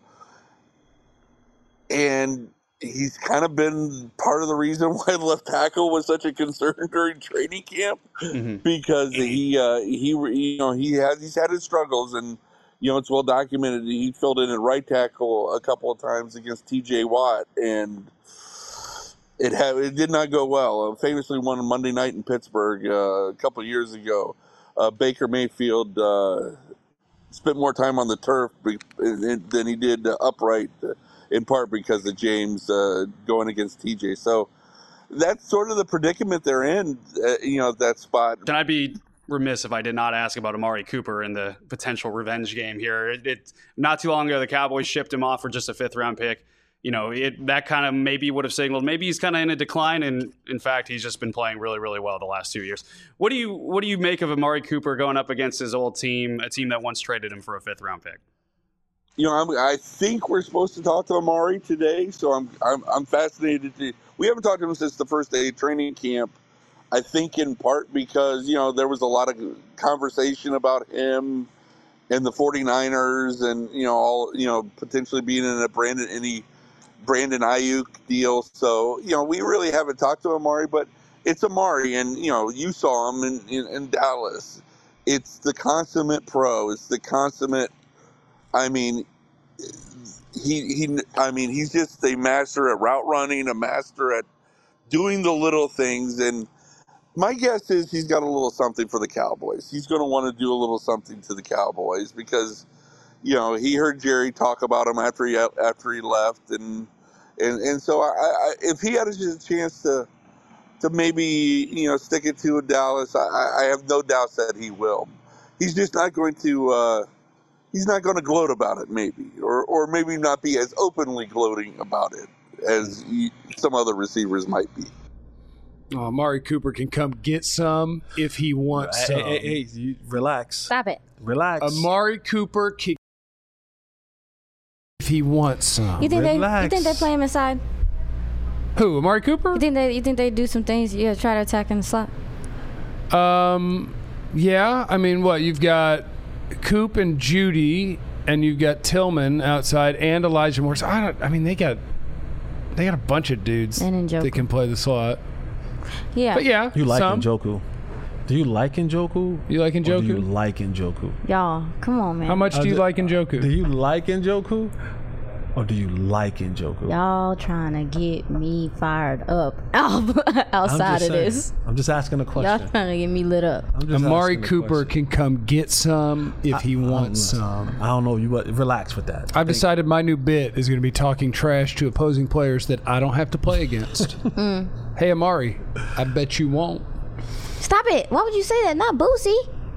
and he's kind of been part of the reason why left tackle was such a concern during training camp, mm-hmm. because he, uh, he, you know, he has he's had his struggles, and you know, it's well documented. He filled in at right tackle a couple of times against T J Watt, and it had it did not go well. Uh, famously won on Monday night in Pittsburgh uh, a couple of years ago. Uh, Baker Mayfield uh, spent more time on the turf than he did uh, upright, uh, in part because of James uh, going against T J. So that's sort of the predicament they're in, uh, you know, that spot. Can I be remiss if I did not ask about Amari Cooper and the potential revenge game here? It, it not too long ago, the Cowboys shipped him off for just a fifth-round pick. You know, it, that kind of maybe would have signaled maybe he's kind of in a decline, and in fact, he's just been playing really, really well the last two years. What do you what do you make of Amari Cooper going up against his old team, a team that once traded him for a fifth round pick? You know, I'm, I think we're supposed to talk to Amari today, so I'm I'm, I'm fascinated to. We haven't talked to him since the first day of training camp. I think in part because you know there was a lot of conversation about him and the 49ers, and you know all you know potentially being in a Brandon any. Brandon Ayuk deal. So, you know, we really haven't talked to Amari, but it's Amari, and, you know, you saw him in, in, in Dallas. It's the consummate pro. It's the consummate, I mean, he, he, I mean, he's just a master at route running, a master at doing the little things. And my guess is he's got a little something for the Cowboys. He's going to want to do a little something to the Cowboys because, you know, he heard Jerry talk about him after he after he left, and and, and so I, I, if he had a chance to to maybe you know stick it to Dallas, I, I have no doubts that he will. He's just not going to uh, he's not going to gloat about it, maybe, or or maybe not be as openly gloating about it as he, some other receivers might be. Oh, Amari Cooper can come get some if he wants hey, some. Hey, hey, hey, you relax. Stop it. Relax. Amari Cooper can if he wants some. You think they? You Relax. think they play him inside? Who? Amari Cooper? You think they? You think they do some things? Yeah, try to attack in the slot. Um, yeah. I mean, what you've got Coop and Judy, and you've got Tillman outside, and Elijah Moore. So I don't. I mean, they got they got a bunch of dudes And Njoku. that can play the slot. Yeah. But yeah, You like some. Njoku? Do you like Njoku? You like Or do you Njoku? like Njoku? Y'all, come on, man. How much do you Uh, like Do Njoku? you like Njoku? Or do you like Njoku? Y'all trying to get me fired up I'm outside just of saying. this. I'm just asking a Y'all question. trying to get me lit up. I'm just Amari asking a Cooper question. can come get some if he I don't wants know. some. I don't know. You what? Relax with that. I've decided my new bit is going to be talking trash to opposing players that I don't have to play against. Hey, Amari, I bet you won't. Stop it. Why would you say that? Not Boosie.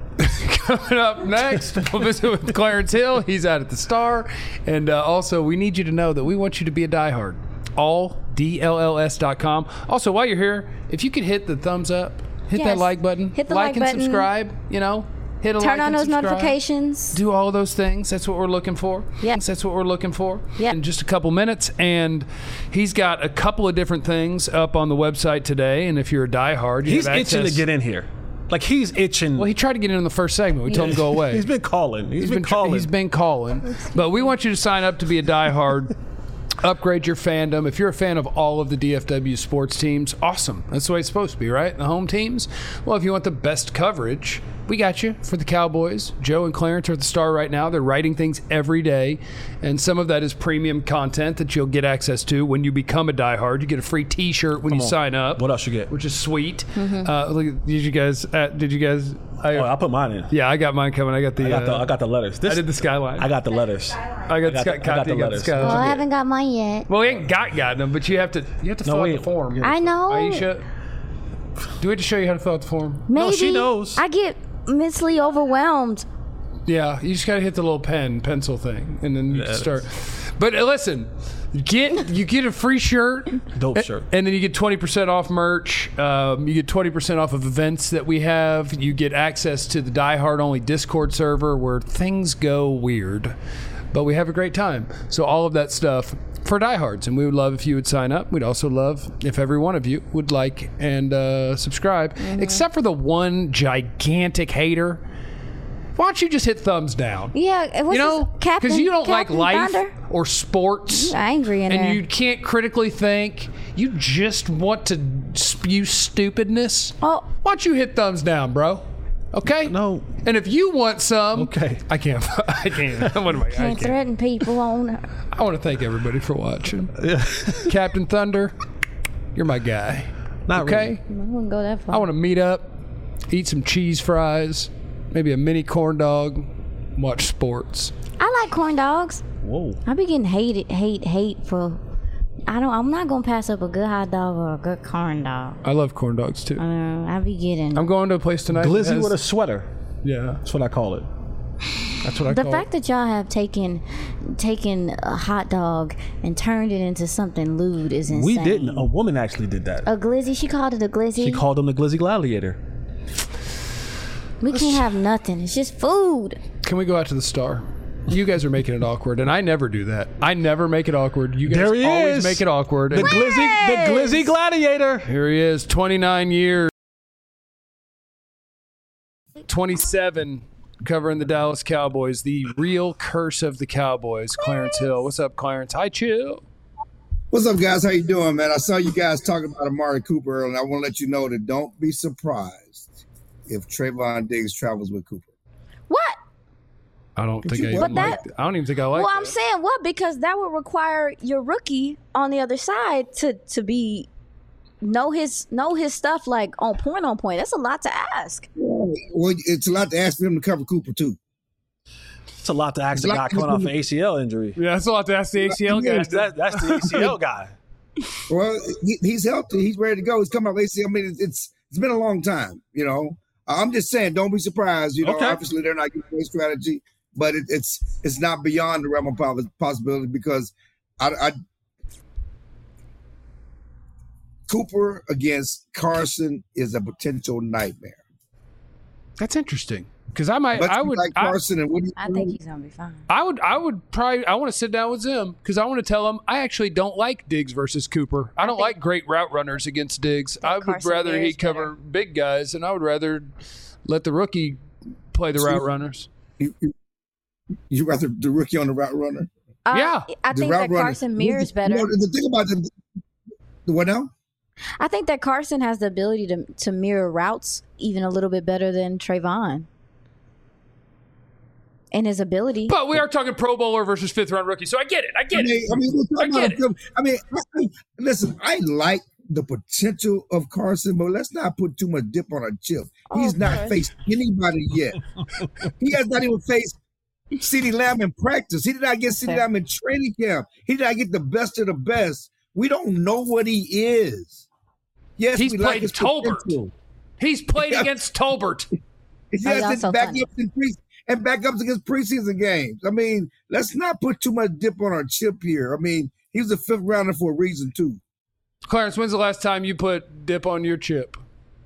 Coming up next, we'll visit with Clarence Hill. He's out at the Star. And uh, also, we need you to know that we want you to be a diehard. all D L L S dot com. Also, while you're here, if you could hit the thumbs up, hit that Yes. like button, Hit the like like and button. subscribe, you know, hit a Turn like on and those subscribe. notifications. Do all of those things. That's what we're looking for. Yeah. That's what we're looking for. Yeah. In just a couple minutes. And he's got a couple of different things up on the website today. And if you're a diehard, you He's have itching to access- get in here. Like he's itching. Well, he tried to get in on the first segment. We told him to go away. He's been calling. He's been tr- calling. He's been calling. But we want you to sign up to be a diehard. Upgrade your fandom. If you're a fan of all of the D F W sports teams, awesome. That's the way it's supposed to be, right? The home teams. Well, if you want the best coverage, we got you for the Cowboys. Joe and Clarence are at the Star right now. They're writing things every day, and some of that is premium content that you'll get access to when you become a diehard. You get a free T-shirt when you on. sign up. What else you get? Which is sweet. Uh, look, did you guys? Uh, did you guys? I, Oh, I put mine in. yeah, I got mine coming. I got the. I got the. uh, I got the letters. This, I did the skyline. I got the letters. I got, got Sky, the- I got the you got letters. skyline. Well, I haven't got mine yet. Well, we ain't got gotten them, but you have to you have to fill out wait. the form. I know. Aisha, do we have to show you how to fill out the form? Maybe. she knows. I get mentally overwhelmed. Yeah, you just got to hit the little pen pencil thing, and then you can it start. But uh, listen, get you get a free shirt, Dope a- shirt. and then you get twenty percent off merch. Um, you get twenty percent off of events that we have. You get access to the Die Hard only Discord server where things go weird, but we have a great time. So all of that stuff for diehards, and we would love if you would sign up. We'd also love if every one of you would like and uh, subscribe, except for the one gigantic hater. Why don't you just hit thumbs down? Yeah, what's You know, his- Captain, because you don't Captain like life Thunder? or sports, You're angry in and there. you can't critically think. You just want to spew stupidness. Oh. Why don't you hit thumbs down, bro? Okay. No. And if you want some, Okay. I can't. I can't. What am I? I Can't can't. threaten people on. I want to thank everybody for watching. Captain Thunder, you're my guy. Not Okay. really. I wouldn't go that far. I want to meet up, eat some cheese fries, maybe a mini corn dog, watch sports. I like corn dogs. Whoa. I be getting hated, hate, hate for. I don't. I'm not gonna pass up a good hot dog or a good corn dog. I love corn dogs too. Uh, I be getting. I'm going to a place tonight. that Glizzy has- with a sweater. yeah, That's what I call it. that's what I the call fact it. that y'all have taken taken a hot dog and turned it into something lewd is insane. We didn't. A woman actually did that. A glizzy. She called it a glizzy. She called him the Glizzy Gladiator. we can't have nothing. It's just food. Can we go out to the Star? You guys are making it awkward, and I never do that. I never make it awkward. You guys There he always is. make it awkward. The and Glizzy, the Glizzy Gladiator. here he is, twenty-nine years, twenty-seven, covering the Dallas Cowboys, the real curse of the Cowboys. Clarence Hill, what's up, Clarence? Hi, chill. What's up, guys? How you doing, man? I saw you guys talking about Amari Cooper earlier, and I want to let you know that don't be surprised if Trayvon Diggs travels with Cooper. What? I don't think you- I But even that- like. I don't even think I like. well, that. I'm saying what because that would require your rookie on the other side to to be know his know his stuff like on point on point. That's a lot to ask. Well, it's a lot to ask for him to cover Cooper, too. It's a lot to ask the It's guy like- coming off an A C L injury. Yeah, that's a lot to ask the A C L guy. That, that's the A C L guy. Well, he, he's healthy. He's ready to go. He's coming off A C L. I mean, it's, it's it's been a long time, you know. I'm just saying, don't be surprised. You know, Okay. obviously they're not getting a strategy, but it, it's it's not beyond the realm of pos- possibility because I, I Cooper against Carson is a potential nightmare. That's interesting. Because I might, But I you would, like I, Carson and what do you I think he's gonna be fine. I would, I would probably, I want to sit down with Zim because I want to tell him I actually don't like Diggs versus Cooper. I don't think- like great route runners against Diggs. I would Carson rather Bear he is cover better. big guys, and I would rather let the rookie play the See, route runners. You, you, you rather the rookie on the route runner? Uh, Yeah. I The think route that runner- Carson mirrors You better. know, the thing about the, the what now? I think that Carson has the ability to to mirror routes even a little bit better than Trayvon. And his ability. But we are talking Pro Bowler versus fifth round rookie, so I get it. I I get mean, it. I mean, we're talking I get about a film. I mean, I, I, listen, I like the potential of Carson, but let's not put too much dip on our chip. He's Oh, not okay. faced anybody yet. He has not even faced CeeDee Lamb in practice. He did not get CeeDee Okay. Lamb in training camp. He did not get the best of the best. We don't know what he is. Yes, He's we like played his Tolbert. potential. Has played Yeah. against Tolbert. He Oh, has y'all to so back funny. up in pre- and backups against preseason games. I mean, let's not put too much dip on our chip here. I mean, he was a fifth rounder for a reason too. Clarence, when's the last time you put dip on your chip?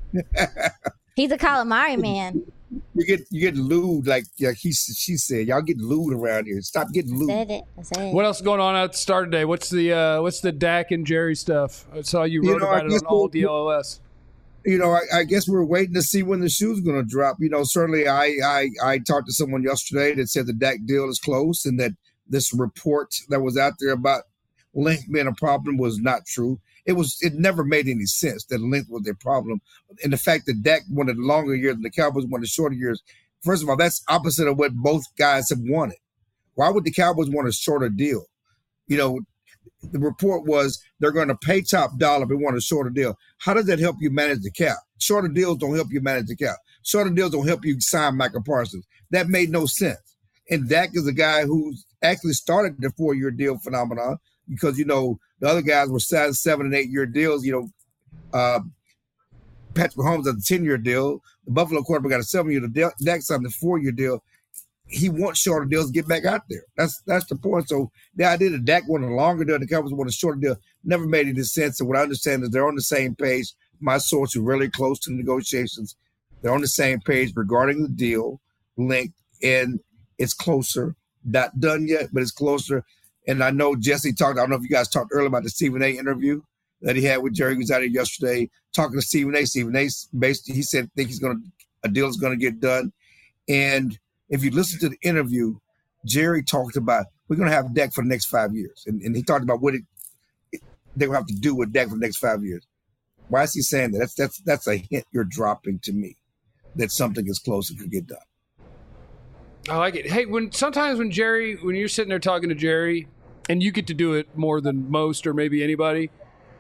He's a calamari man. You get you get lewd like like he she said. Y'all get lewd around here. Stop getting lewd. Said it. I said it. What else is going on at the start today? What's the uh, what's the Dak and Jerry stuff? I saw you You wrote know, I about it guess on all we'll- D L O S. You know, I, I guess we're waiting to see when the shoe's going to drop. You know, certainly I, I I talked to someone yesterday that said the Dak deal is close and that this report that was out there about length being a problem was not true. It was it never made any sense that length was their problem. And the fact that Dak wanted longer years and the Cowboys wanted shorter years, first of all, that's opposite of what both guys have wanted. Why would the Cowboys want a shorter deal? You know, the report was they're going to pay top dollar but want a shorter deal. How does that help you manage the cap? Shorter deals don't help you manage the cap. Shorter deals don't help you sign Michael Parsons. That made no sense. And Dak is a guy who actually started the four-year deal phenomenon because, you know, the other guys were signing seven and eight-year deals. You know, uh, Patrick Mahomes had a ten-year deal. The Buffalo quarterback got a seven-year deal. Dak signed a four-year deal. He wants shorter deals to get back out there. That's that's the point. So the idea that Dak wanted a longer deal, the Cowboys want a shorter deal, never made any sense. And what I understand is they're on the same page. My source is really close to the negotiations. They're on the same page regarding the deal length, and it's closer. Not done yet, but it's closer. And I know Jesse talked. I don't know if you guys talked earlier about the Stephen A. interview that he had with Jerry. He was out here yesterday talking to Stephen A. Stephen A. basically he said think he's going to a deal is going to get done, and if you listen to the interview, Jerry talked about we're going to have Dak for the next five years. And, and he talked about what it, it, they're going to have to do with Dak for the next five years. Why is he saying that? That's that's that's a hint you're dropping to me that something is close and could get done. I like it. Hey, when sometimes when Jerry, when you're sitting there talking to Jerry, and you get to do it more than most or maybe anybody,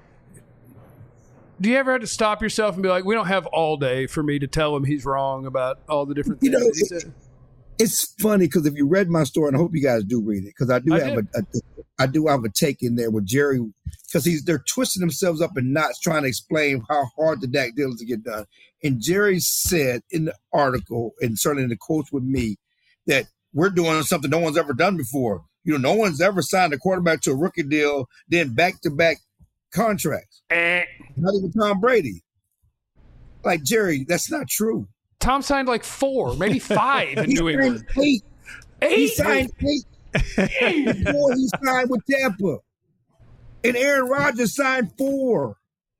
do you ever have to stop yourself and be like, we don't have all day for me to tell him he's wrong about all the different You things know, that he it- said? It's funny because if you read my story, and I hope you guys do read it, because I do I have a, a I do have a take in there with Jerry, because he's they're twisting themselves up in knots trying to explain how hard the Dak deal is to get done. And Jerry said in the article, and certainly in the quotes with me, that we're doing something no one's ever done before. You know, no one's ever signed a quarterback to a rookie deal, then back to back contracts. Eh. Not even Tom Brady. Like Jerry, that's not true. Tom signed like four, maybe five in He New signed England. eight. He Eight. signed eight before he signed with Tampa. And Aaron Rodgers signed four.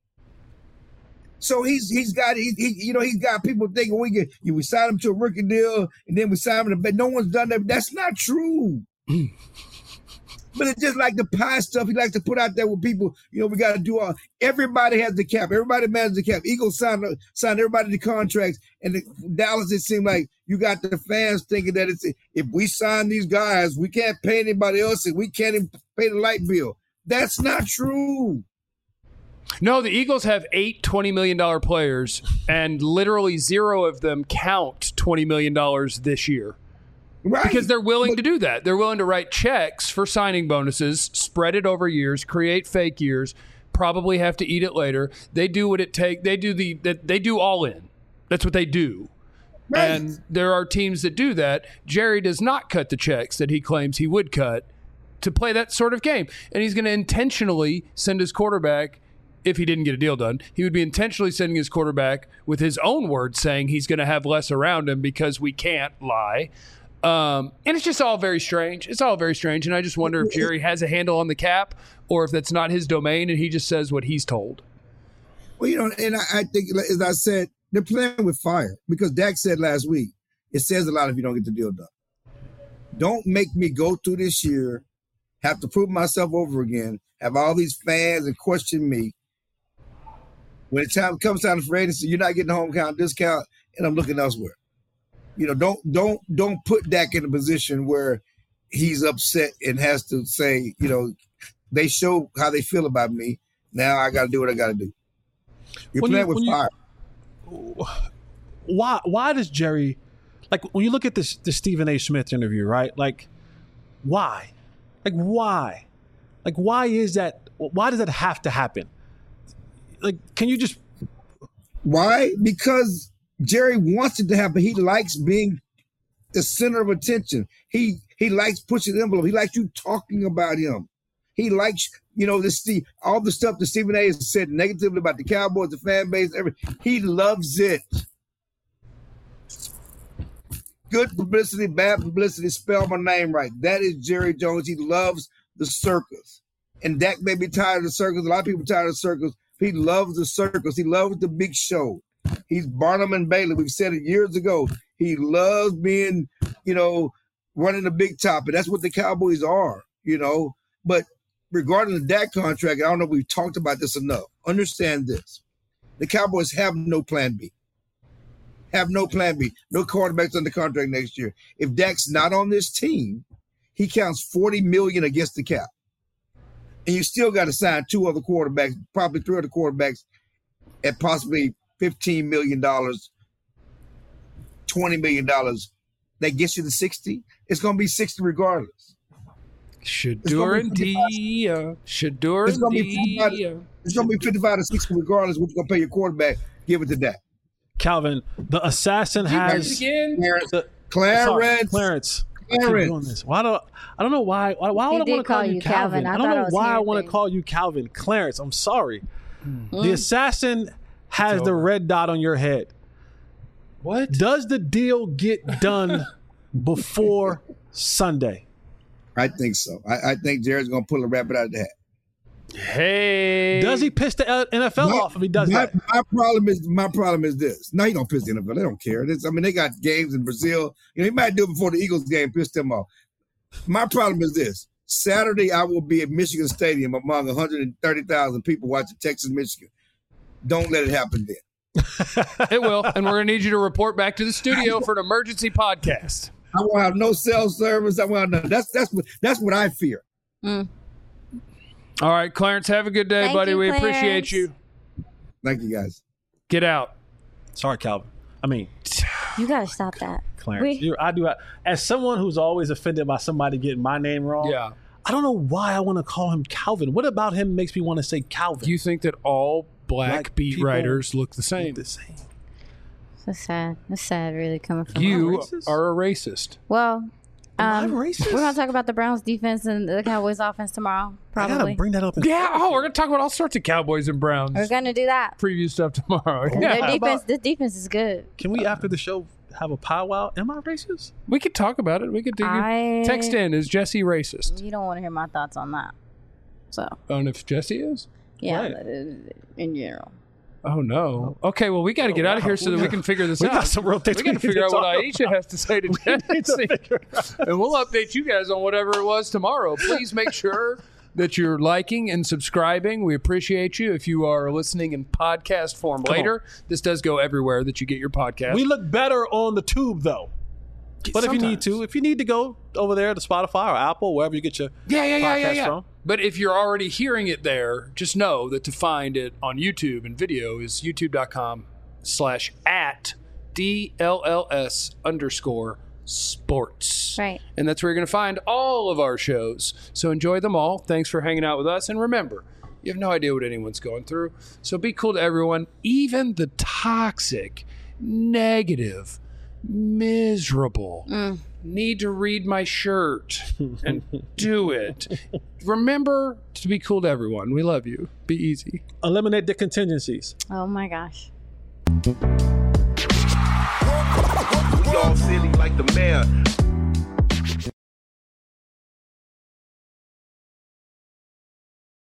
So he's he's got he, he you know he's got people thinking we get you we sign him to a rookie deal and then we sign him to but no one's done that. That's not true. But it's just like the pie stuff he likes to put out there with people. You know, we got to do all. Everybody has the cap. Everybody manages the cap. Eagles signed signed everybody to contracts, and the, Dallas. It seemed like you got the fans thinking that it's if we sign these guys, we can't pay anybody else, and we can't even pay the light bill. That's not true. No, the Eagles have eight twenty million dollars players, and literally zero of them count twenty million dollars this year. Right. Because they're willing But- to do that. They're willing to write checks for signing bonuses, spread it over years, create fake years, probably have to eat it later. They do what it takes. They do the they do all in. That's what they do. Right. And there are teams that do that. Jerry does not cut the checks that he claims he would cut to play that sort of game. And he's going to intentionally send his quarterback if he didn't get a deal done, he would be intentionally sending his quarterback with his own words saying he's going to have less around him because we can't lie. Um, and it's just all very strange. It's all very strange. And I just wonder if Jerry has a handle on the cap or if that's not his domain and he just says what he's told. Well, you know, and I, I think, as I said, they're playing with fire because Dak said last week, it says a lot if you don't get the deal done. Don't make me go through this year, have to prove myself over again, have all these fans and question me. When the time comes time for agency, you're not getting the home count discount, and I'm looking elsewhere. You know, don't don't don't put Dak in a position where he's upset and has to say, you know, they show how they feel about me. Now I got to do what I got to do. You're When playing you- with when fire. you- Why? Why does Jerry, like, when you look at this the Stephen A. Smith interview, right? Like, why? Like, why? Like, why is that? Why does that have to happen? Like, can you just? Why? Because Jerry wants it to happen. He likes being the center of attention. He he likes pushing the envelope. He likes you talking about him. He likes, you know, this the all the stuff that Stephen A. has said negatively about the Cowboys, the fan base, everything. He loves it. Good publicity, bad publicity, spell my name right. That is Jerry Jones. He loves the circus. And Dak may be tired of the circus. A lot of people are tired of the circus. He loves the circus. He loves the big show. He's Barnum and Bailey. We've said it years ago. He loves being, you know, running the big top. And that's what the Cowboys are, you know. But regarding the Dak contract, I don't know if we've talked about this enough. Understand this. The Cowboys have no plan B. Have no plan B. No quarterbacks under contract next year. If Dak's not on this team, he counts forty million dollars against the cap. And you still got to sign two other quarterbacks, probably three other quarterbacks at possibly fifteen million dollars, twenty million dollars. That gets you to sixty. It's going to be sixty regardless. Shadur and Dia. Shadur It's going to and be fifty-five, Dia. it's going to be fifty-five to sixty regardless what you're going to pay your quarterback. Give it to Dak. Calvin, the assassin has Again? Clarence. the, Clarence. sorry, Clarence. I keep Clarence. doing this. Why do I don't know why? Why, why He would I did want to call call you you Calvin? Calvin. I I, don't thought know I was why I hearing want to things. call you Calvin. Clarence, I'm sorry. Mm. The assassin has the red dot on your head. What? Does the deal get done before Sunday? I think so. I, I think Jared's going to pull a rabbit out of the hat. Hey. Does he piss the N F L My- off if he does my, that? My problem is my problem is this. No, he don't piss the N F L. They don't care. This, I mean, they got games in Brazil. You know, he might do it before the Eagles game, piss them off. My problem is this. Saturday, I will be at Michigan Stadium among one hundred thirty thousand people watching Texas, Michigan. Don't let it happen then. It will. And we're going to need you to report back to the studio for an emergency podcast. I won't have no cell service. I won't have no, that's that's what that's what I fear. Mm. All right, Clarence, have a good day, Thank buddy. you, we Clarence. appreciate you. Thank you, guys. Get out. Sorry, Calvin. I mean, You gotta stop that. Clarence. We- You, I do. As someone who's always offended by somebody getting my name wrong, Yeah. I don't know why I want to call him Calvin. What about him makes me want to say Calvin? Do you think that all black, Black beat people writers look the same? the same. That's sad. That's sad, really, coming from You Am I racist? are a racist. Well, Am I um, racist? we're gonna talk about the Browns defense and the Cowboys offense tomorrow. I gotta Probably. bring that up. In Yeah. Oh, we're going to talk about all sorts of Cowboys and Browns. We're gonna do that. Preview stuff tomorrow. Their Yeah. defense. This defense is good. Can we, after the show, have a powwow? Am I racist? We could talk about it. We could do I- text in. Is Jesse racist? You don't want to hear my thoughts on that. So On if Jesse is? yeah, Right. uh, in general. Oh no. Okay, well we got to get out of here so that we can figure this We out. got some real things we got we to need figure to out what talk Aisha has to say to Jesse, and we'll update you guys on whatever it was tomorrow. Please make sure that you're liking and subscribing. We appreciate you. If you are listening in podcast form later, this does go everywhere that you get your podcast. We look better on the tube, though. But if you need Sometimes. to, if you need to go over there to Spotify or Apple, wherever you get your Yeah, yeah, yeah, yeah, podcast yeah. from. But if you're already hearing it there, just know that to find it on YouTube and video is youtube.com slash at DLLS underscore sports. Right. And that's where you're going to find all of our shows. So enjoy them all. Thanks for hanging out with us. And remember, you have no idea what anyone's going through. So be cool to everyone, even the toxic, negative, miserable. Mm. Need to read my shirt and do it. Remember to be cool to everyone. We love you. Be easy. Eliminate the contingencies. Oh my gosh. Y'all silly like the mayor.